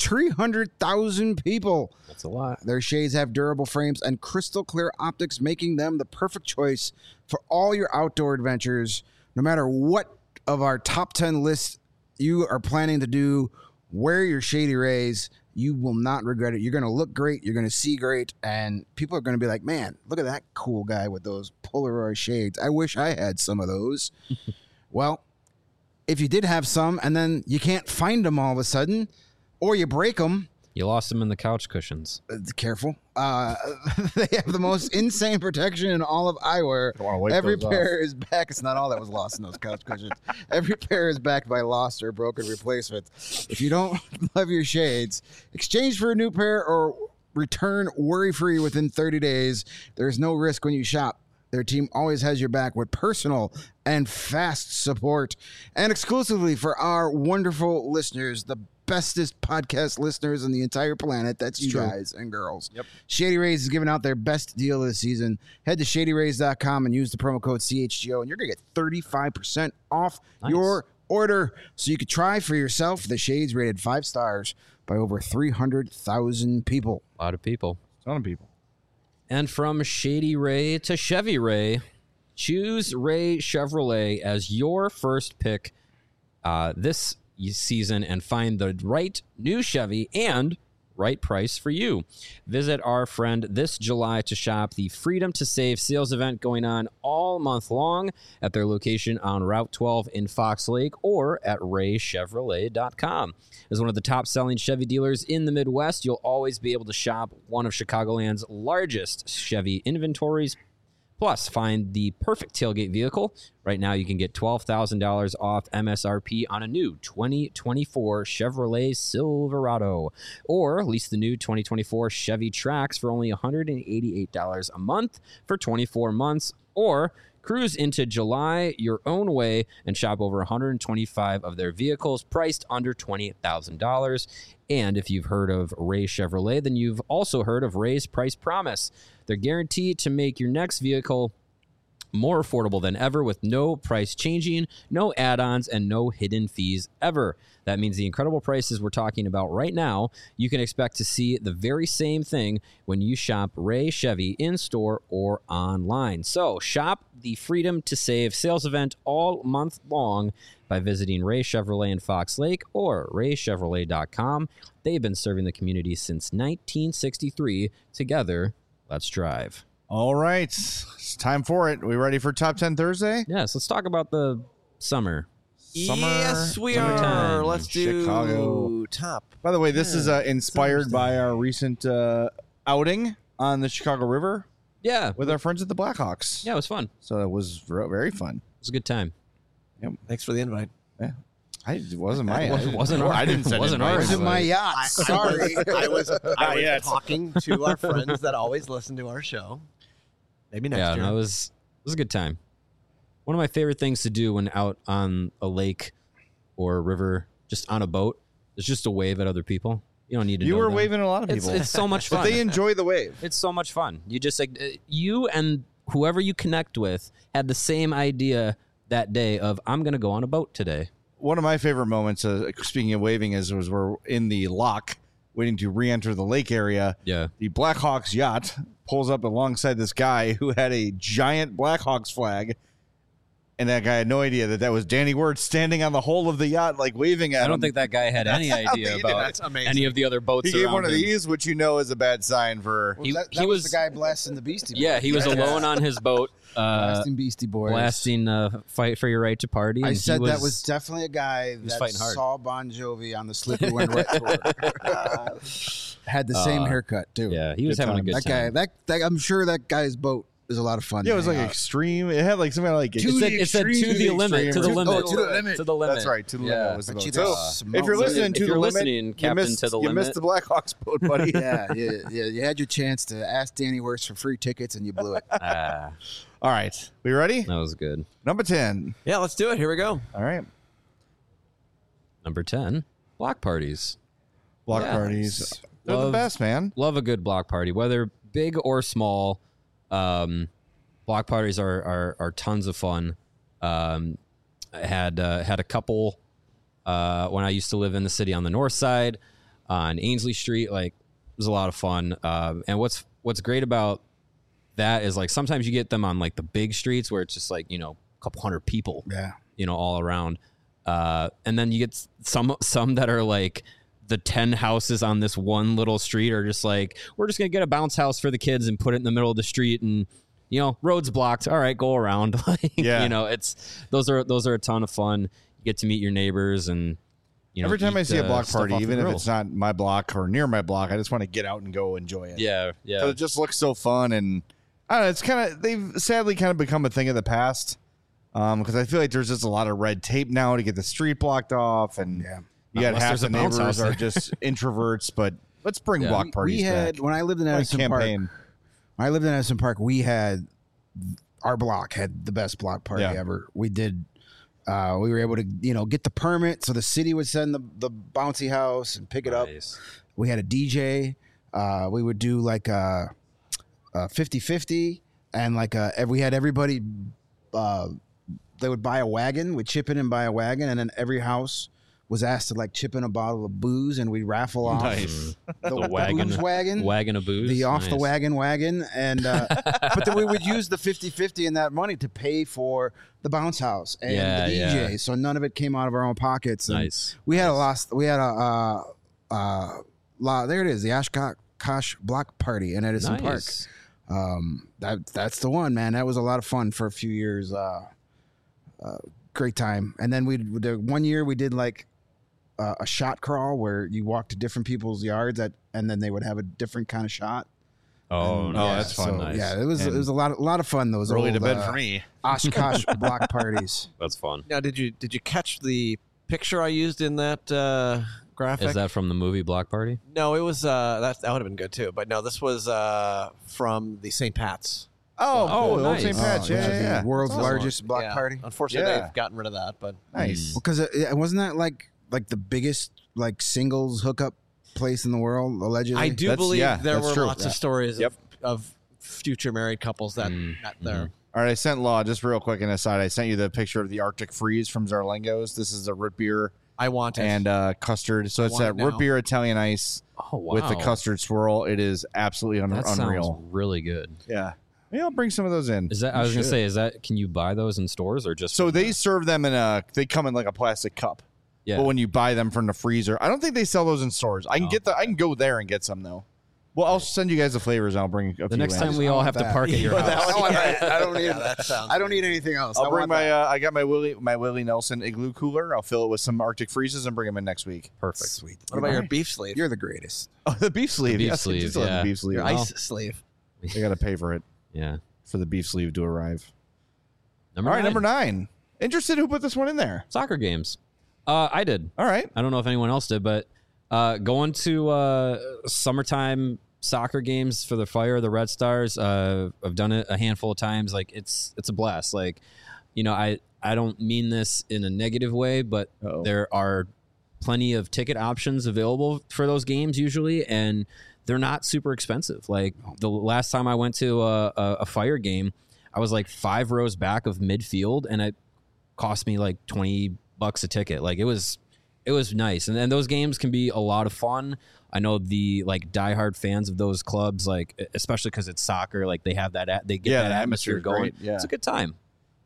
300,000 people. That's a lot. Their shades have durable frames and crystal clear optics, making them the perfect choice for all your outdoor adventures. No matter what of our top 10 lists you are planning to do, wear your Shady Rays. You will not regret it. You're going to look great. You're going to see great. And people are going to be like, man, look at that cool guy with those Polaroid shades. I wish I had some of those. Well, if you did have some and then you can't find them all of a sudden, or you break them. You lost them in the couch cushions. Careful. They have the most insane protection in all of eyewear. Every pair is back. It's not all that was lost in those couch cushions. Every pair is backed by lost or broken replacements. If you don't love your shades, exchange for a new pair or return worry-free within 30 days. There's no risk when you shop. Their team always has your back with personal and fast support. And exclusively for our wonderful listeners, the bestest podcast listeners on the entire planet. That's you guys and girls. Yep. Shady Rays is giving out their best deal of the season. Head to shadyrays.com and use the promo code CHGO, and you're going to get 35% off your order. So you could try for yourself the shades rated 5 stars by over 300,000 people. A lot of people. A ton of people. And from Shady Ray to Chevy Ray, choose Ray Chevrolet as your first pick this season and find the right new Chevy and right price for you. Visit our friend this July to shop the Freedom to Save sales event going on all month long at their location on Route 12 in Fox Lake or at raychevrolet.com. As one of the top-selling Chevy dealers in the Midwest, you'll always be able to shop one of Chicagoland's largest Chevy inventories. Plus, find the perfect tailgate vehicle. Right now, you can get $12,000 off MSRP on a new 2024 Chevrolet Silverado. Or lease the new 2024 Chevy Trax for only $188 a month for 24 months. Or cruise into July your own way and shop over 125 of their vehicles priced under $20,000. And if you've heard of Ray Chevrolet, then you've also heard of Ray's Price Promise. They're guaranteed to make your next vehicle more affordable than ever with no price changing, no add-ons, and no hidden fees ever. That means the incredible prices we're talking about right now, you can expect to see the very same thing when you shop Ray Chevy in-store or online. So shop the Freedom to Save sales event all month long by visiting Ray Chevrolet in Fox Lake or raychevrolet.com. They've been serving the community since 1963. Together, let's drive. All right. It's time for it. We ready for Top 10 Thursday? Yes, let's talk about the summer. Yes, we summertime are. Let's do Chicago. top. By the way, this is inspired by our recent outing on the Chicago River Yeah. with our friends at the Blackhawks. Yeah, it was fun. So it was very fun. It was a good time. Thanks for the invite. It wasn't my Wasn't our- I didn't send wasn't invite. ours. It was my yacht. Sorry. I was yet. talking to our friends that always listen to our show. Maybe next Yeah, year. no, it was a good time. One of my favorite things to do when out on a lake or a river, just on a boat, is just to wave at other people. You don't need to. You know were them. waving at a lot of people. It's so much but fun. they enjoy the wave. It's so much fun. You just like you and whoever you connect with had the same idea that day of I'm going to go on a boat today. One of my favorite moments, speaking of waving, was we're in the lock waiting to re-enter the lake area. Yeah. The Blackhawks yacht pulls up alongside this guy who had a giant Blackhawks flag. And that guy had no idea that was Danny Wirtz standing on the hull of the yacht, like waving at him. I don't think that guy had any idea about That's amazing. any of the other boats He gave around one of him. these, which you know is a bad sign for. He- that he was was- the guy blasting the Beastie Boys. Yeah, he was alone on his boat, Blasting Beastie Boys. blasting "Fight for Your Right to Party." I and said he that was definitely a guy was that fighting hard. saw Bon Jovi on the Slippery When Wet tour. Had the same haircut too. Yeah, he was Good having a time. good that time. guy. That I'm sure that guy's boat was a lot of fun. Yeah, it was to like hang out. extreme. It had like something like It said to the limit, to the limit, to the limit. to the limit. That's right. To the Yeah. limit was the But boat. you So just if you're listening If to you're the listening, limit, Captain you missed, to the you limit. missed the Blackhawks boat, buddy. Yeah, you had your chance to ask Danny Worst for free tickets and you blew it. Ah, All right, we ready? that was good. Number 10. Yeah, let's do it. Here we go. All right, Number 10, block parties. block Yeah. parties. They're the Love- best, man. Love a good block party, whether big or small. Block parties are tons of fun. I had a couple when I used to live in the city on the north side on Ainsley Street. Like, it was a lot of fun. And what's great about that is, like, sometimes you get them on like the big streets where it's just like, you know, a couple hundred people, Yeah. you know, all around. And then you get some that are like the 10 houses on this one little street are just like, we're just going to get a bounce house for the kids and put it in the middle of the street, and, you know, road's blocked. All right, go around. Like, Yeah. you know, those are a ton of fun. You get to meet your neighbors, and, you know, Every time I eat, see a block stuff party, off the even if grill. it's not my block or near my block, I just want to get out and go enjoy it. Yeah, yeah. 'Cause it just looks so fun, and I don't know. It's kind of they've sadly kind of become a thing of the past. Because I feel like there's just a lot of red tape now to get the street blocked off, and Yeah. you got Unless half there's the a bounce neighbors house are there. just introverts. But let's bring Yeah. block parties We had back. when I lived in Like Edison Park. campaign. When I lived in Edison Park, we had our block had the best block party Yeah. ever. We did. We were able to, you know, get the permit, so the city would send the bouncy house and pick it up. Nice. We had a DJ. We would do like a 50-50, and like we had everybody. They would buy a wagon. We'd chip in and buy a wagon, and then every house was asked to like chip in a bottle of booze, and we'd raffle off Nice. the wagon. booze wagon. Wagon of booze. The off the Nice. wagon, and but then we would use the 50-50 and that money to pay for the bounce house and Yeah, the DJ. yeah. So none of it came out of our own pockets. And Nice. we had a lot. We had a lot. There it is, the Oshkosh Block Party in Edison Park. Nice. That's the one, man. That was a lot of fun for a few years. Great time. And then the one year we did like a shot crawl where you walk to different people's yards and then they would have a different kind of shot. Oh, And, nice. that's fun. So, Nice. yeah, it was a lot of fun. Those Early old, to bed for me. Oshkosh Block parties. That's fun. Now, did you catch the picture I used in that graphic? Is that from the movie Block Party? No, it was that would have been good too. But no, this was from the St. Pat's. Oh, Oh, cool. Old nice. St. Pat's. which is Yeah. the world's That's awesome. largest block Yeah. party. Unfortunately, Yeah. they've gotten rid of that. But Nice. Because it wasn't that like the biggest like singles hookup place in the world allegedly. I do That's- believe yeah, there that's were true. lots Yeah. of stories Yep. of future married couples that met there. All right, I sent Law, just real quick an aside, I sent you the picture of the Arctic Freeze from Zarlengo's. This is a root beer I want it. and custard. So it's want that it root now. beer Italian ice Oh, wow. with the custard swirl. It is absolutely That unreal. sounds really good. Yeah. Maybe I'll bring some of those in. Is that? I was gonna say, can you buy those in stores or just? So from they the- serve them they come in like a plastic cup. Yeah. But when you buy them from the freezer, I don't think they sell those in stores. I can I can go there and get some though. Well, I'll send you guys the flavors and I'll bring a few the next in. time we I all want have to that. park at your house. I don't need. that sounds I don't need anything else. I'll I bring want my that. I got my Willie Nelson igloo cooler. I'll fill it with some Arctic freezes and bring them in next week. Perfect. Sweet. What about your beef sleeve? You're the greatest. Oh, the beef sleeve. beef Yes, I do sleeve, still have yeah. the beef sleeve. Your Well, ice sleeve. I got to pay for it Yeah. for the beef sleeve to arrive. Number All right, nine. number 9. Interested who put this one in there? Soccer games. I did. All right. I don't know if anyone else did, but going to summertime soccer games for the Fire, the Red Stars. I've done it a handful of times. Like it's a blast. Like, you know, I don't mean this in a negative way, but Uh-oh. there are plenty of ticket options available for those games usually, and they're not super expensive. Like the last time I went to a Fire game, I was like 5 rows back of midfield, and it cost me like $20 a ticket. Like it was nice, and then those games can be a lot of fun. I know the like diehard fans of those clubs, like especially because it's soccer, like they have they get that the atmosphere atmosphere's going. great, yeah. It's a good time.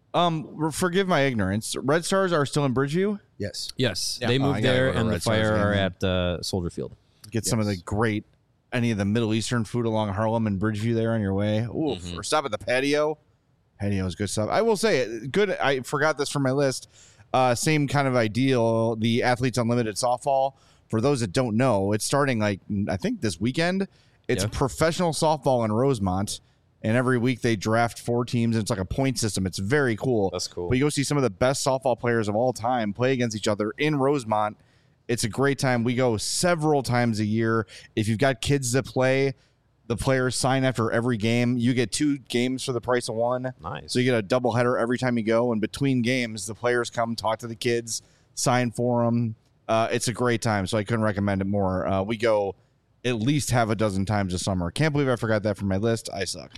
Forgive my ignorance. Red Stars are still in Bridgeview. Yes. Yes, Yeah. they Oh, I moved gotta there, go to and the Red Stars Fire game, are man. at Soldier Field. Get some of the great, any of the Middle Eastern food along Harlem and Bridgeview there on your way. Ooh, or stop at the patio. Patio is good stuff. I will say it good. I forgot this from my list. Same kind of ideal. The Athletes Unlimited softball. For those that don't know, it's starting like I think this weekend. It's Yeah. professional softball in Rosemont. And every week they draft 4 teams, and it's like a point system. It's very cool. That's cool. But you go see some of the best softball players of all time play against each other in Rosemont. It's a great time. We go several times a year. If you've got kids that play, the players sign after every game. You get 2 games for the price of 1. Nice. So you get a doubleheader every time you go. And between games, the players come talk to the kids, sign for them. It's a great time. So I couldn't recommend it more. We go at least half a dozen times a summer. Can't believe I forgot that from my list. I suck.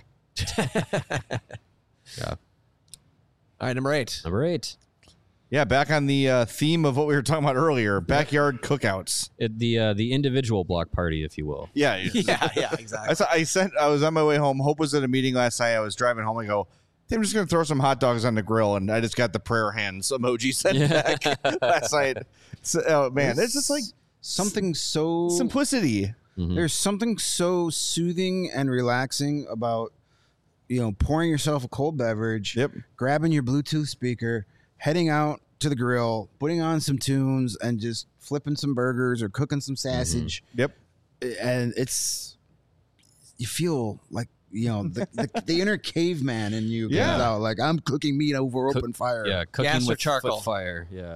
Yeah. All right, number 8. Number 8. Yeah, back on the theme of what we were talking about earlier, backyard cookouts. The individual block party, if you will. Yeah, Yeah, exactly. I was on my way home. Hope was at a meeting last night. I was driving home. I go, I'm just going to throw some hot dogs on the grill, and I just got the prayer hands emoji sent back last night. So, oh man, it's just like something so simplicity. There's something so soothing and relaxing about, pouring yourself a cold beverage, grabbing your Bluetooth speaker, heading out to the grill, putting on some tunes, and just flipping some burgers or cooking some sausage. Yep. And you feel like, the inner caveman in you comes out. Like, I'm cooking meat over open fire. Yeah, cooking Gas or with charcoal? fire. Yeah.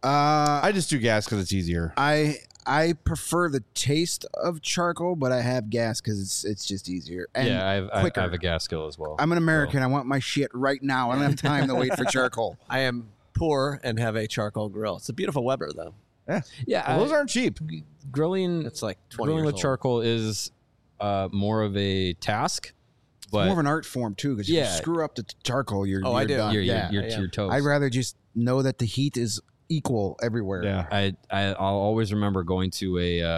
I just do gas because it's easier. I prefer the taste of charcoal, but I have gas because it's just easier. And I quicker. have a gas skill as well. I'm an American. I want my shit right now. I don't have time to wait for charcoal. I am poor and have a charcoal grill. It's a beautiful Weber, though. Yeah, Well, those aren't cheap. grilling. It's like 20 Grilling years with old. charcoal is more of a task, but More of an art form too, because if you Yeah. screw up the charcoal, you're I do. done. you're, yeah. you're to your toes. I'd rather just know that the heat is equal everywhere. Yeah. I'll always remember going to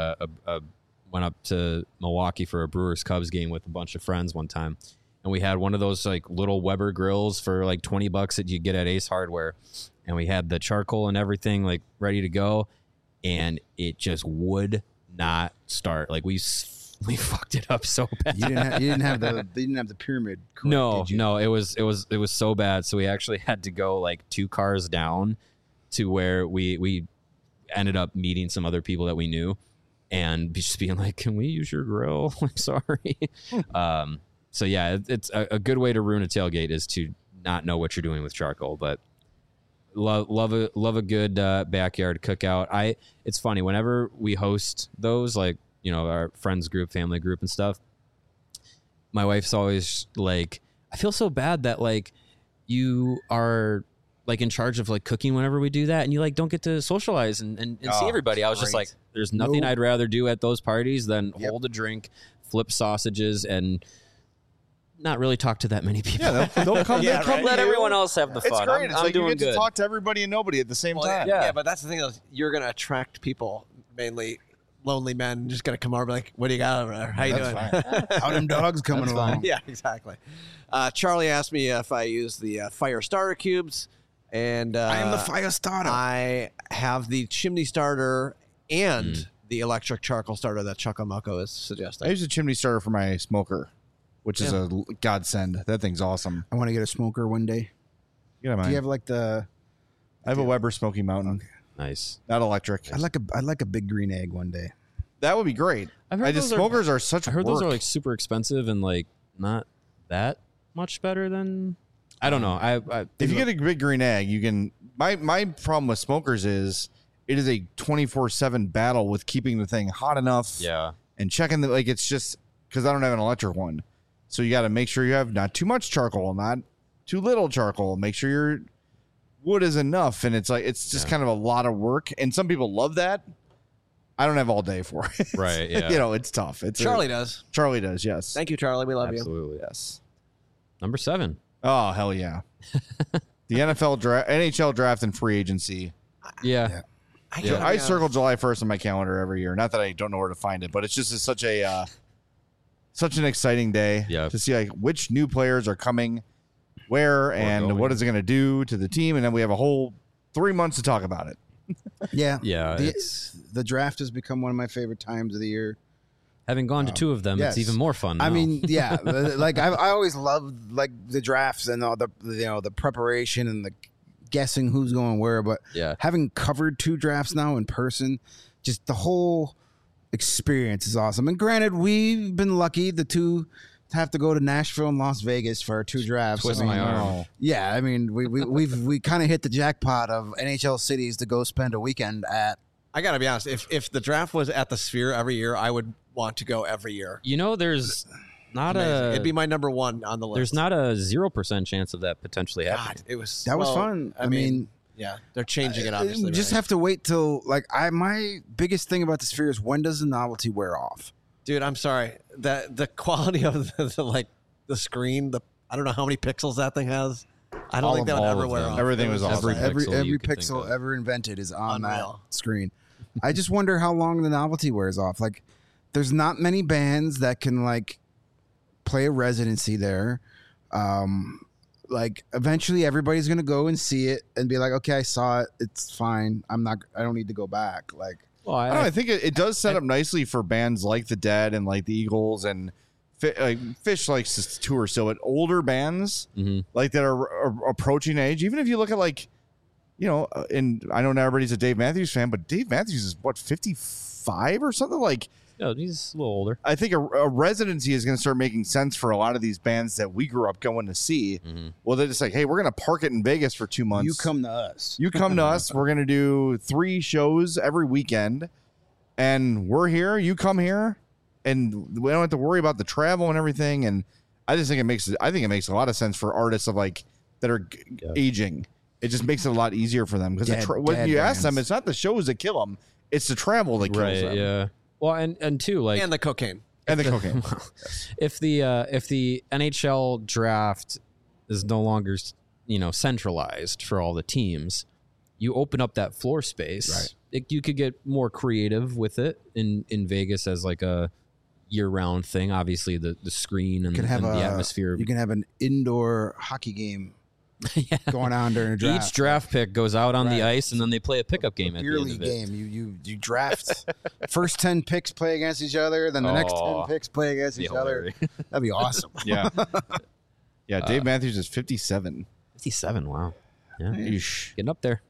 went up to Milwaukee for a Brewers Cubs game with a bunch of friends one time, and we had one of those like little Weber grills for like $20 that you get at Ace Hardware, and we had the charcoal and everything like ready to go, and it just would not start. Like we fucked it up so bad. You didn't have the pyramid. Correct, No, did you? no, it was so bad. So we actually had to go like 2 cars down to where we ended up meeting some other people that we knew and just being like, can we use your grill? I'm sorry. So yeah, it's a good way to ruin a tailgate is to not know what you're doing with charcoal, but love a good backyard cookout. It's funny whenever we host those, like, our friends group, family group and stuff, my wife's always like, I feel so bad that like you are like in charge of like cooking whenever we do that, and you like don't get to socialize and see everybody. I was just like, there's nothing I'd rather do at those parties than hold a drink, flip sausages, and not really talk to that many people. Yeah, they'll come. Yeah, they'll come right. to Let you. everyone else have the It's fun. great. It's I'm like you doing get good. to talk to everybody and nobody at the same time. Yeah, but that's the thing. You're going to attract people, mainly lonely men, just going to come over and be like, what do you got over there? How you doing? How them dogs coming along? Yeah, exactly. Charlie asked me if I use the fire starter cubes, and I am the fire starter. I have the chimney starter and the electric charcoal starter that Chuckamako is I suggesting. use a chimney starter for my smoker, which is a godsend. That thing's awesome. I want to get a smoker one day. You know, Do you have like the? I have a Weber Smoky Mountain, Nice. not electric. I'd like a big green egg one day. That would be great. I've heard those smokers are such. I heard those are work. like super expensive and like not that much better than. I don't know. I If you get a big green egg, you can. My problem with smokers is it is a 24/7 battle with keeping the thing hot enough. yeah. And checking the it's just because I don't have an electric one, so you got to make sure you have not too much charcoal, not too little charcoal. Make sure your wood is enough, and it's just kind of a lot of work. And some people love that. I don't have all day for it. Right. Yeah. It's tough. It's Charlie does. Charlie does. Yes. Thank you, Charlie. We love you. Absolutely. Yes. Number 7. Oh hell yeah. The NFL draft, NHL draft, and free agency. Yeah. I circle July 1st on my calendar every year. Not that I don't know where to find it, but it's just such an exciting day to see like which new players are coming, where, and going. what is it going to do to the team, and then we have a whole 3 months to talk about it. Yeah, Yeah. The draft has become one of my favorite times of the year. Having gone to 2 of them, yes. it's even more fun. I now. mean, yeah, like I always loved like the drafts and all the the preparation and the guessing who's going where. But Yeah. having covered 2 drafts now in person, just the whole experience is awesome. And granted, we've been lucky. The two have to go to Nashville and Las Vegas for our 2 drafts. Twist my arm. Yeah, I mean, we kind of hit the jackpot of NHL cities to go spend a weekend at. I got to be honest. If the draft was at the Sphere every year, I would want to go every year. You know, there's not It'd be my number 1 on the list. there's not a 0% chance of that potentially happening. God, it was That was fun. I mean, yeah, they're changing it. Obviously, we just have to wait till my biggest thing about the Sphere is when does the novelty wear off? Dude, I'm sorry. The quality of the screen. I don't know how many pixels that thing has. I don't think that would all ever of wear them. off. Everything was awesome. Every pixel Every you could think pixel of. ever invented is on Unreal. that screen. I just wonder how long the novelty wears off. Like, there's not many bands that can play a residency there. Eventually everybody's gonna go and see it and be like, okay, I saw it. It's fine. I don't need to go back. Well, I don't know. I think it does set up nicely for bands like the Dead and like the Eagles and Fish likes to tour still, but older bands like that are approaching age. Even if you look at and I know not everybody's a Dave Matthews fan, but Dave Matthews is 55 or something like. No, he's a little older. I think a residency is going to start making sense for a lot of these bands that we grew up going to see. Well, they're just like, hey, we're going to park it in Vegas for 2 months. You come to us. You come to us. We're going to do 3 shows every weekend, and we're here. You come here, and we don't have to worry about the travel and everything. And I just think it makes a lot of sense for artists that are aging. It just makes it a lot easier for them because when you ask them, it's not the shows that kill them; it's the travel that kills them. Yeah. Well, and too, and the cocaine. And the cocaine. If the NHL draft is no longer centralized for all the teams, you open up that floor space. Right. You could get more creative with it in Vegas as like a year-round thing. Obviously, the screen and the atmosphere. You can have an indoor hockey game going on during a draft. Each draft pick goes out on the ice, and then they play a pickup game at the end of it. Game. You draft. First 10 picks play against each other, then the next 10 picks play against each other. That'd be awesome. Yeah. Yeah, Dave Matthews is 57. 57, wow. Yeah. Eesh. Getting up there.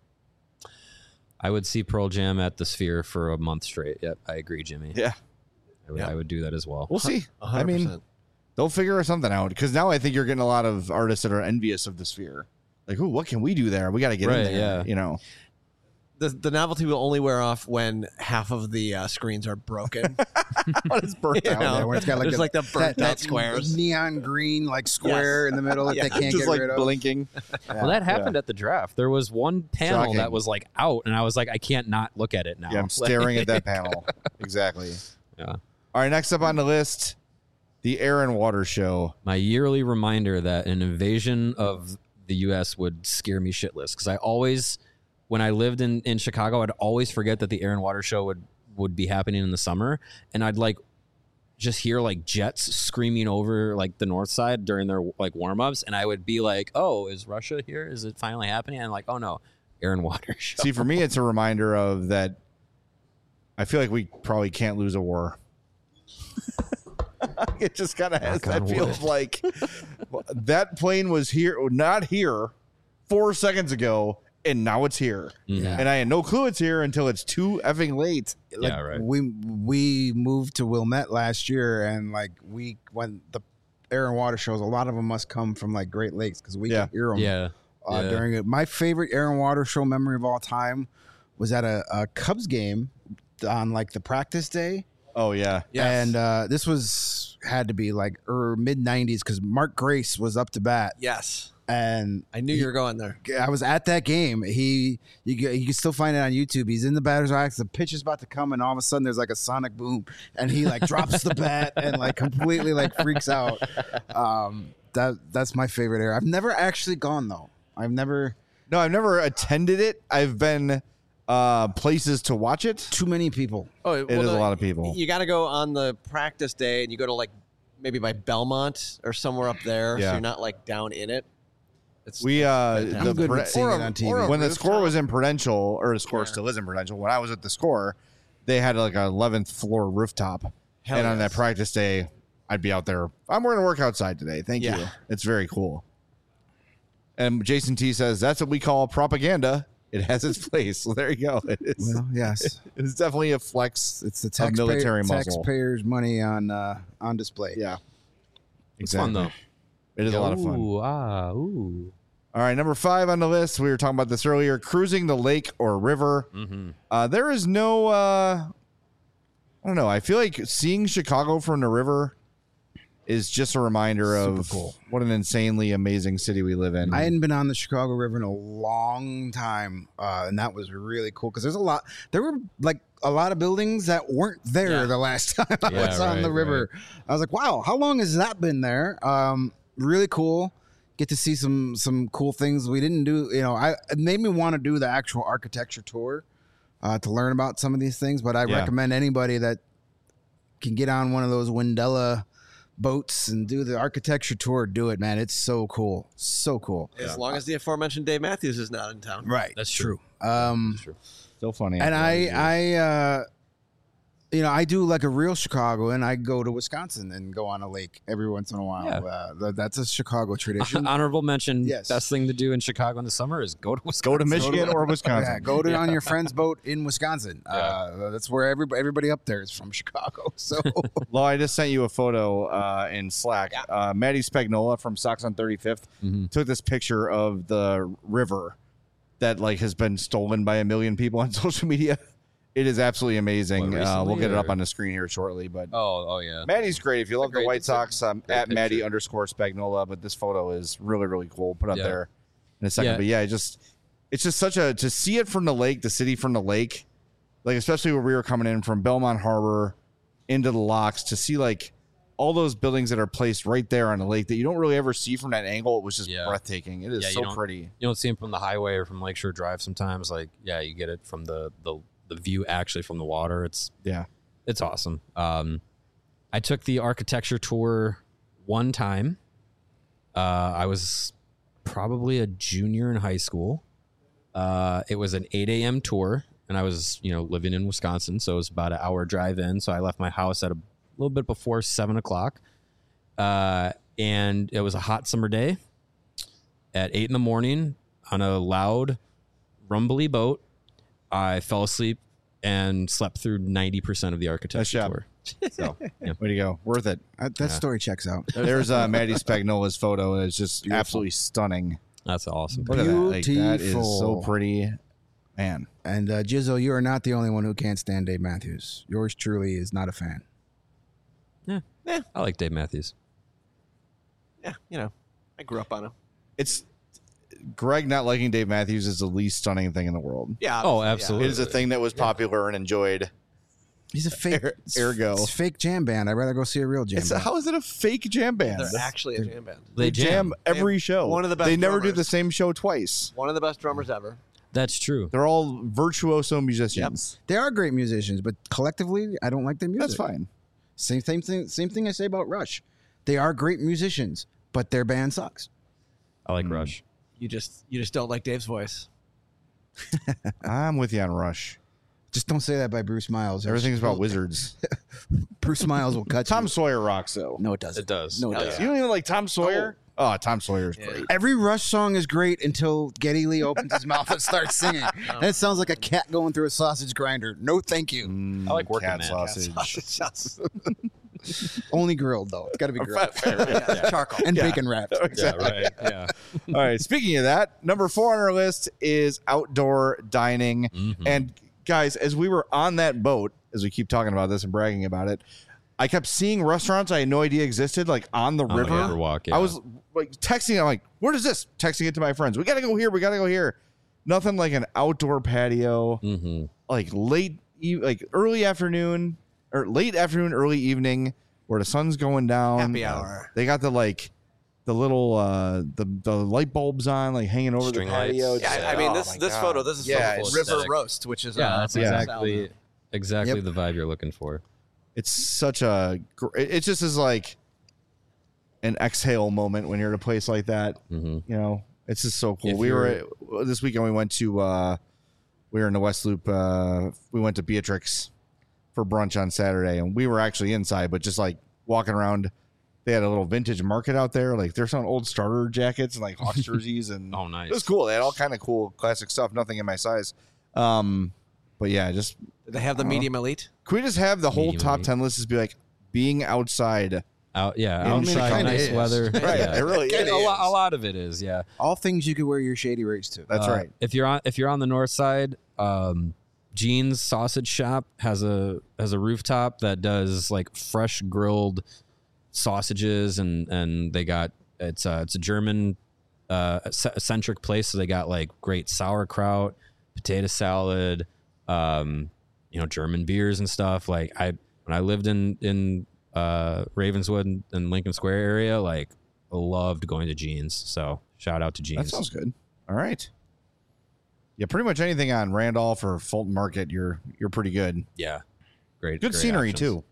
I would see Pearl Jam at the Sphere for a month straight. Yep, I agree, Jimmy. Yeah. I would do that as well. We'll see. 100%. I mean, they'll figure something out because now I think you're getting a lot of artists that are envious of the Sphere. Like, ooh, what can we do there? We got to get in there. Yeah. The novelty will only wear off when half of the screens are broken. When it's burnt out. Yeah, when it's got There's the burnt out that squares. Neon green square in the middle that they can't just get rid of. blinking. Well, that happened at the draft. There was one panel Shocking. that was out, and I was like, I can't not look at it now. Yeah, I'm staring at that panel. Exactly. Yeah. All right, next up on the list, the Air and Water Show. My yearly reminder that an invasion of the U.S. would scare me shitless because I always, when I lived in Chicago, I'd always forget that the Air and Water Show would be happening in the summer, and I'd just hear jets screaming over the north side during their warm-ups, and I would be like, oh, is Russia here? Is it finally happening? And oh no, Air and Water Show. See, for me, it's a reminder of that. I feel like we probably can't lose a war. It just kind of has that feels like that plane was not here 4 seconds ago, and now it's here. Yeah. And I had no clue it's here until it's too effing late. Yeah, right. We moved to Wilmette last year, and when the Air and Water shows, a lot of them must come from Great Lakes because we can hear them. Yeah. During it. My favorite Air and Water Show memory of all time was at a Cubs game on the practice day. Oh yeah. Yes. And this had to be mid 90s because Mark Grace was up to bat. Yes. And I knew you were going there. I was at that game. You can still find it on YouTube. He's in the batter's box. The pitch is about to come, and all of a sudden there's a sonic boom, and he drops the bat and completely freaks out. That's my favorite era. I've never actually gone though. I've never attended it. I've been places to watch it. Too many people. Oh, It is a lot of people. You got to go on the practice day, and you go to maybe by Belmont or somewhere up there, Yeah. so you're not down in it. I'm good with seeing it on TV. When the Score was in Prudential, or the Score still is in Prudential, when I was at the Score, they had an 11th floor rooftop. Hell and on yes. that practice day, I'd be out there. I'm going to work outside today. Thank you. It's very cool. And Jason T says, that's what we call propaganda. It has its place. So there you go. It is. Well, yes. It's definitely a flex. It's the military muscle. taxpayers' money on display. Yeah. It's fun though. It is a lot of fun. Ooh, ooh. All right, number 5 on the list. We were talking about this earlier. Cruising the lake or river. There is no. I don't know. I feel like seeing Chicago from the river is just a reminder of what an insanely amazing city we live in. I hadn't been on the Chicago River in a long time, and that was really cool because there were like a lot of buildings that weren't there the last time I was on the river. Right. I was like, wow, how long has that been there? Really cool. Get to see some cool things we didn't do. It made me want to do the actual architecture tour to learn about some of these things. But I recommend anybody that can get on one of those Wendella boats and do the architecture tour, do it, man. It's so cool. So cool. As long as the aforementioned Dave Matthews is not in town. Right. That's true. That's true. Still funny. And I do like a real Chicago, and I go to Wisconsin and go on a lake every once in a while. Yeah. That's a Chicago tradition. Honorable mention. Yes. Best thing to do in Chicago in the summer is go to Wisconsin. Go to Michigan or Wisconsin. Yeah, go on your friend's boat in Wisconsin. That's where everybody up there is from Chicago. So, Well, I just sent you a photo in Slack. Maddie Spagnola from Sox on 35th took this picture of the river that has been stolen by a million people on social media. It is absolutely amazing. We'll get it up on the screen here shortly. But oh yeah, Maddie's great. If you love the White Sox, at Maddie _Spagnola. But this photo is really, really cool. Put up there in a second. But it's just such to see it from the lake, the city from the lake, especially where we were coming in from Belmont Harbor into the locks, to see all those buildings that are placed right there on the lake that you don't really ever see from that angle. It was just breathtaking. It is so pretty. You don't see them from the highway or from Lakeshore Drive sometimes. You get it from the view actually from the water. It's awesome. I took the architecture tour one time. I was probably a junior in high school. It was an 8 a.m. tour, and I was living in Wisconsin, so it was about an hour drive in. So I left my house at a little bit before 7 o'clock, and it was a hot summer day. At 8 in the morning on a loud, rumbly boat, I fell asleep and slept through 90% of the architecture tour. So, way to go. Worth it. That story checks out. There's Maddie Spagnola's photo. It's just absolutely stunning. That's awesome. Look at that. That is so pretty. Man. And Jizzo, you are not the only one who can't stand Dave Matthews. Yours truly is not a fan. Yeah. I like Dave Matthews. Yeah, I grew up on him. It's Greg not liking Dave Matthews is the least stunning thing in the world. Yeah. Oh, absolutely. It is a thing that was popular and enjoyed. He's a fake Ergo. fake jam band. I'd rather go see a real jam band. How is it a fake jam band? They're actually a jam band. They jam every show. One of the best They never do drummers. the same show twice. One of the best drummers ever. That's true. They're all virtuoso musicians. They are great musicians, but collectively, I don't like their music. That's fine. Same thing I say about Rush. They are great musicians, but their band sucks. I like Rush. You just don't like Dave's voice. I'm with you on Rush. Just don't say that by Bruce Miles. Everything's about wizards. Bruce Miles will cut Tom you. Sawyer rocks, though. No, it doesn't. It does. No, it Hell doesn't. You don't even like Tom Sawyer? Oh, Tom Sawyer's great. Every Rush song is great until Geddy Lee opens his mouth and starts singing. And it sounds like a cat going through a sausage grinder. No, thank you. I like Working Cat Man. sausage. Only grilled, though. It's got to be grilled. Charcoal. And bacon wrapped. Exactly. Yeah, right. Yeah. All right. Speaking of that, number 4 on our list is outdoor dining. And guys, as we were on that boat, as we keep talking about this and bragging about it, I kept seeing restaurants I had no idea existed, on the river. Riverwalk, I was texting. I'm like, "What is this?" Texting it to my friends. We gotta go here. We gotta go here. Nothing like an outdoor patio, early afternoon or late afternoon, early evening, where the sun's going down. Happy hour. They got the little the light bulbs on, hanging over String the patio. lights. Yeah, I mean this photo. This is Yeah, from it's River aesthetic. Roast, which is That's exactly Yep. the vibe you're looking for. It's such a. It just is like an exhale moment when you're at a place like that. It's just so cool. This weekend we went to. We were in the West Loop. We went to Beatrix for brunch on Saturday, and we were actually inside, but just walking around. They had a little vintage market out there. They're selling old starter jackets and Hawks jerseys, and Oh, nice. It was cool. They had all kind of cool classic stuff. Nothing in my size. But yeah, just Did they have the medium elite? can we just have the whole Medium top elite. 10 list just be being outside Outside, kinda nice is. weather. Right, Yeah. it really is. A lot of it is, yeah. All things you could wear your shady rates to. That's right. If you're on the north side, Gene's Sausage Shop has a rooftop that does like fresh grilled sausages, and they got it's a German centric place, so they got like great sauerkraut, potato salad, German beers and stuff. Like when I lived in Ravenswood and Lincoln Square area, like I loved going to Gene's. So shout out to Gene's. That sounds good. All right. Yeah, pretty much anything on Randolph or Fulton Market, you're pretty good. Yeah, great. Good great scenery options. too.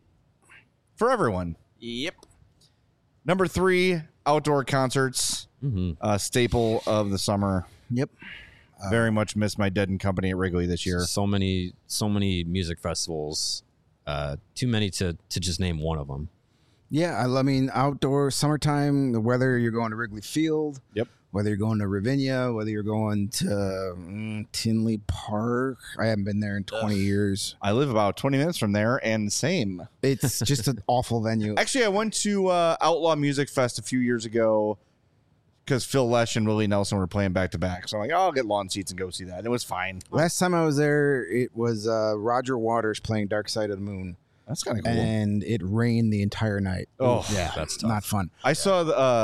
For everyone. Yep. Number 3, outdoor concerts. Mm-hmm. Staple of the summer. Yep. Very much missed my Dead and Company at Wrigley this year. So many music festivals. Too many to just name one of them. Yeah, I mean, outdoor summertime, whether you're going to Wrigley Field, Yep. whether you're going to Ravinia, whether you're going to Tinley Park. I haven't been there in 20 years. I live about 20 minutes from there, and same. It's just an awful venue. Actually, I went to Outlaw Music Fest a few years ago because Phil Lesh and Willie Nelson were playing back to back. So I'm like, I'll get lawn seats and go see that. And it was fine. Last time I was there, it was Roger Waters playing Dark Side of the Moon. That's kind of cool. And it rained the not night. Oh, yeah, that's tough. not fun. I saw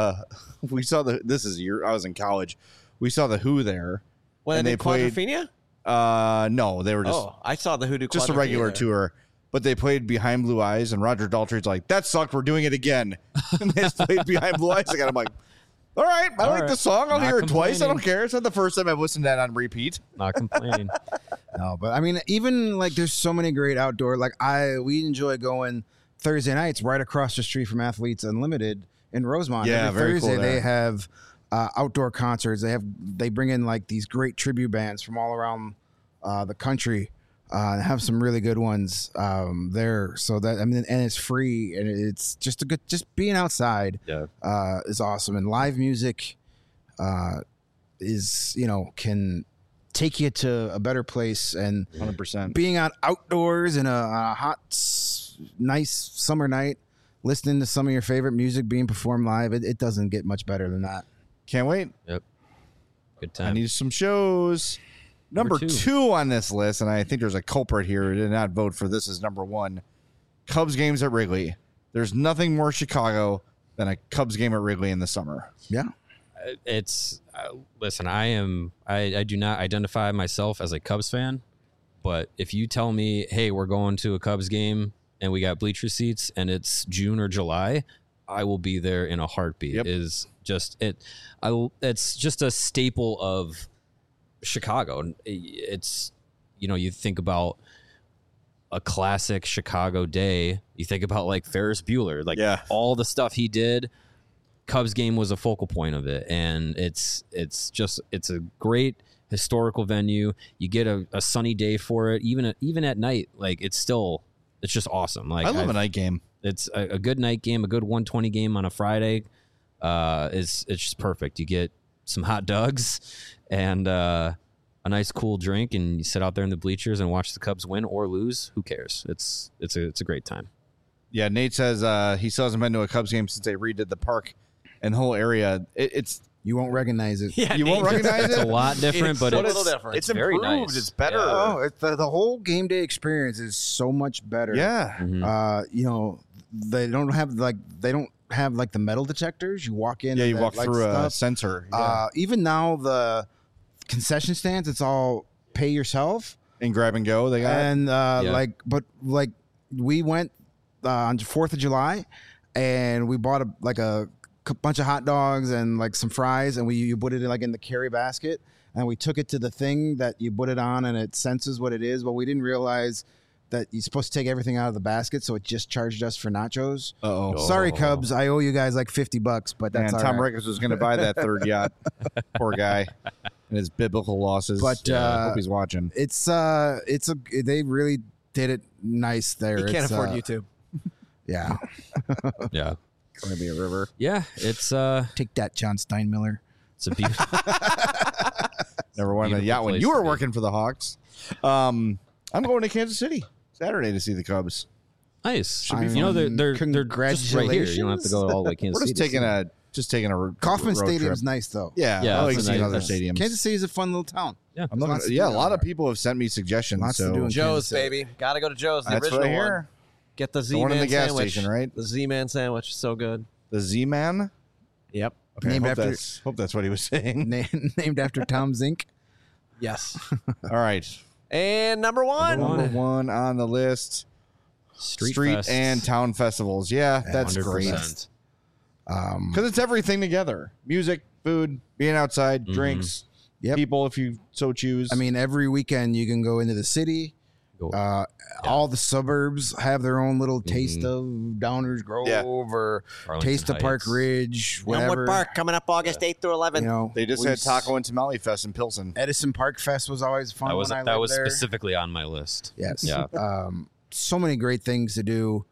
this is I was in college. We saw the Who there. When and they they played Quadrophenia? No, they were just I saw the Hoodoo just a Quadrophenia regular there. tour. But they played Behind Blue Eyes, and Roger Daltrey's like, that sucked, we're doing it again. And they just played Behind Blue Eyes again. I'm like, all right, I like the song. I'll Not hear it twice. I don't complaining. care. It's not the first time I've listened to that on repeat. Not complaining. No, but I mean, even like there's so many great outdoor. Like we enjoy going Thursday nights right across the street from Athletes Unlimited in Rosemont. Yeah, Every very Thursday cool there. they have outdoor concerts. They bring in like these great tribute bands from all around the country. Have some really good ones there. So that and it's free and it's just just being outside. Yeah. Is awesome, and live music is can take you to a better place, and 100%. being outdoors in a hot nice summer night listening to some of your favorite music being performed live, it doesn't get much better than that. Can't wait. Yep. Good I time. need some shows. Number Number 2 on this list, and I think there's a culprit here who did not vote for this as number 1. Cubs games at Wrigley. There's nothing more Chicago than a Cubs game at Wrigley in the summer. Yeah. It's listen. I do not identify myself as a Cubs fan, but if you tell me, hey, we're going to a Cubs game and we got bleacher seats and it's June or July, I will be there in a heartbeat. Yep. Is just it. It's just a staple of Chicago. It's you think about a classic Chicago day. You think about like Ferris Bueller, like Yeah. all the stuff he did. Cubs game was a focal point of it, and it's a great historical venue. You get a sunny day for it, even at night. Like it's just awesome. Like I love a night game. It's a good night game, a good 120 game on a Friday. It's just perfect. You get some hot dogs and a nice cool drink, and you sit out there in the bleachers and watch the Cubs win or lose. Who cares? It's a great time. Yeah, Nate says he still hasn't been to a Cubs game since they redid the park and the whole area. It's You won't recognize it. Yeah, you won't recognize It's a it. lot different, It's but a it's little different. It's very improved. nice. It's better. Yeah. Oh, the whole game day experience is so much better. Yeah. Mhm. They don't have like the metal detectors. You walk in. Yeah, and you that, walk like, through a stuff. sensor. Yeah. Even now, the concession stands, it's all pay yourself. And grab and go. They got And Yeah. but we went on 4th of July, and we bought a bunch of hot dogs and like some fries, and you put it in the carry basket, and we took it to the thing that you put it on, and it senses what it is. Well, we didn't realize that you're supposed to take everything out of the basket, so it just charged us for nachos. Uh-oh. Sorry, Cubs, I owe you guys like $50, but Man, that's all Tom right. Ricketts was going to buy that third yacht. Poor guy. And his biblical losses. But, I hope he's watching. They really did it nice there. He can't It's, afford YouTube. Yeah. yeah, Going to be a river. yeah. It's Take that, John Steinmiller. it's a beautiful. Never won a Beautiful yacht when place you to were be. working for the Hawks. I'm going to Kansas City Saturday to see the Cubs. Nice. I You know, mean, they're just right here. You don't have to go all the way Kansas We're City. just taking a Kauffman road Stadium's trip. nice though. Yeah, Yeah, I like it's a seeing nice- other that's- stadiums. Kansas City is a fun little town. Yeah. I'm looking, Lots to yeah, a do lot down of people have sent me suggestions. Lots to so do in Joe's, Kansas City. baby. Got to go to Joe's. The that's what original I one. hear. Get the The one in Z-Man the gas sandwich. station, right? The Z-Man sandwich. So good. The Z-Man. Yep. Okay, Named hope after- hope that's what he was saying. Named after Tom Zink. Yes. All right, And number one. number one on the list: Street street Fest. and town festivals. Yeah, that's 100%. great because it's everything together: music, food, being outside, drinks, Yep. people if you so choose. I mean, every weekend you can go into the city. Go. All the suburbs have their own little taste of Downers Grove Yeah. or Arlington taste of Park Heights. Ridge, whatever. Elmwood Park coming up August 8th through 11th. You know, they just we had Taco and Tamale Fest in Pilsen. Edison Park Fest was always fun. That was when I that lived was there. specifically on my list. Yes. Yeah. So many great things to do.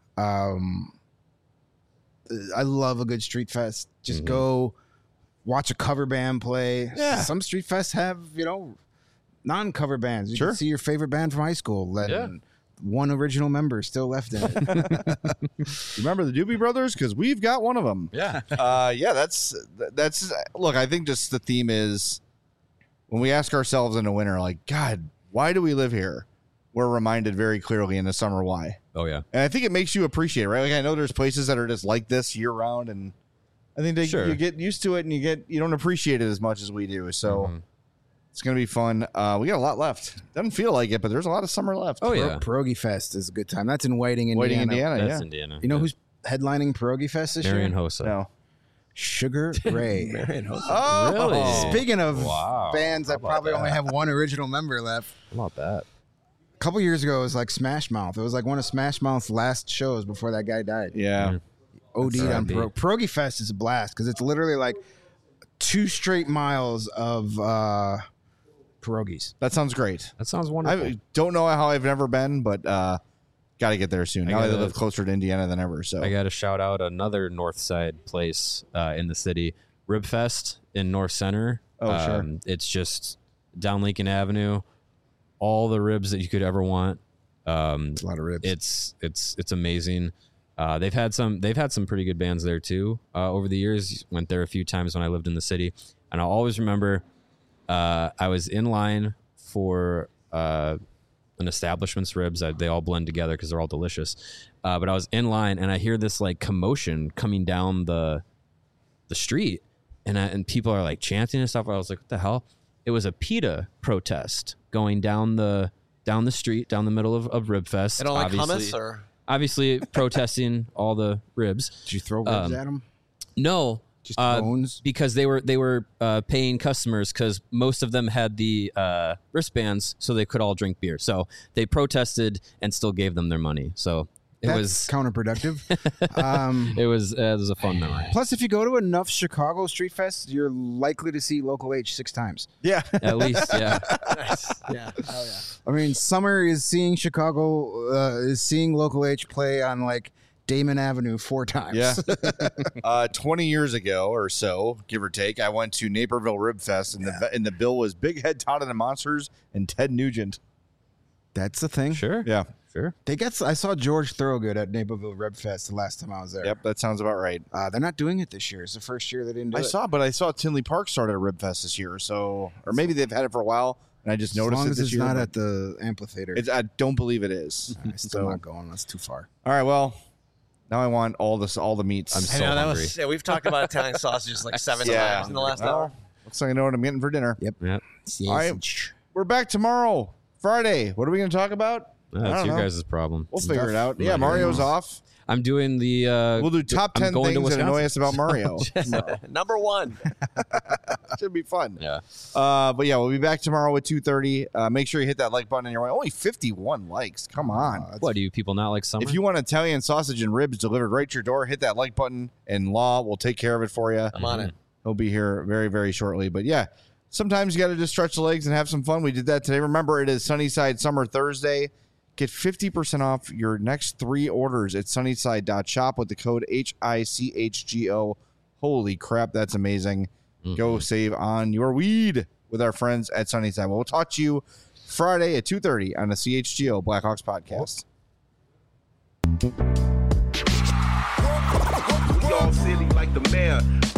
I love a good street fest. Just go watch a cover band play. Yeah. Some street fests have, non-cover bands. You Sure. can see your favorite band from high school. And Yeah. one original member still left in it. Remember the Doobie Brothers? Because we've got one of them. Yeah. Yeah, that's look, I think just the theme is when we ask ourselves in the winter, like, God, why do we live here? We're reminded very clearly in the summer why. Oh yeah. And I think it makes you appreciate it, right? Like I know there's places that are just like this year round, and I think Sure. you get used to it and you don't appreciate it as much as we do. So it's gonna be fun. We got a lot left. Doesn't feel like it, but there's a lot of summer left. Oh yeah. Pierogi Fest is a good time. That's in Whiting, Indiana. Whiting, Indiana. That's Yeah. Indiana. You know Yeah. who's headlining Pierogi Fest this Marion year? Hossa. No. Sugar Ray. Oh, Really? Speaking of Wow. bands that probably only have one original member left, How about that? a couple years ago it was like Smash Mouth. It was like one of Smash Mouth's last shows before that guy died. Yeah. OD'd on R.I.P. Pierogi Fest is a blast because it's literally like 2 straight miles of pierogies. That sounds great. That sounds wonderful. I don't know how I've never been, but got to get there soon. Now I gotta- live closer to Indiana than ever. So I got to shout out another North Side place in the city, Rib Fest in North Center. Oh, sure. It's just down Lincoln Avenue, all the ribs that you could ever want. It's a lot of ribs. It's amazing. They've had some pretty good bands there too over the years. Went there a few times when I lived in the city, and I'll always remember I was in line for an establishment's ribs. They all blend together because they're all delicious. But I was in line and I hear this like commotion coming down the street, and people are like chanting and stuff. I was like, what the hell? It was a PETA protest going down the street, down the middle of Rib Fest. They don't like obviously, hummus or obviously protesting all the ribs. Did you throw ribs at them? No, Just bones? because they were paying customers because most of them had the wristbands, so they could all drink beer. So they protested and still gave them their money. So it That's was counterproductive. it was a fun memory. Plus, if you go to enough Chicago Street Fests, you're likely to see Local H 6 times. yeah. At least, yeah. yeah. Oh yeah. I mean, summer is seeing is seeing Local H play on like Damon Avenue 4 times. Yeah. 20 years ago or so, give or take, I went to Naperville Rib Fest, and the bill was Big Head Todd and the Monsters and Ted Nugent. That's the thing. Sure, Yeah. sure. I saw George Thorogood at Naperville Rib Fest the last time I was there. Yep, that sounds about right. They're not doing it this year. It's the first year they didn't do it. I saw Tinley Park started a Rib Fest this year, so or maybe they've had it for a while, and I just As noticed long it as this it's year. not but at the amphitheater. I don't believe it is. I'm still not going. That's too far. All right, well, now I want all the meats. I'm I so know that hungry. was. Yeah, we've talked about Italian sausages like 7 Yeah. times in the last Well, hour. looks like I know what I'm getting for dinner. Yep. Yeah. All right. We're back tomorrow, Friday. What are we going to talk about? I That's don't your know. guys' problem. We'll figure it out. I'm Yeah, not Mario's hearing off. I'm doing the. We'll do top I'm 10 going to things that annoy Wisconsin. us about Mario. tomorrow. Number 1. Should be fun. Yeah. But yeah, we'll be back tomorrow at 2:30. Make sure you hit that like button on your way. Only 51 likes. Come on. What do you people not like summer? If you want Italian sausage and ribs delivered right to your door, hit that like button, and Law will take care of it for you. I'm on it. He'll be here very, very shortly. But yeah, sometimes you got to just stretch the legs and have some fun. We did that today. Remember, it is Sunnyside Summer Thursday. Get 50% off your next 3 orders at sunnyside.shop with the code HICHGO. Holy crap, that's amazing. Go save on your weed with our friends at Sunnyside. Well, we'll talk to you Friday at 2:30 on the CHGO Blackhawks podcast. We all silly like the mayor.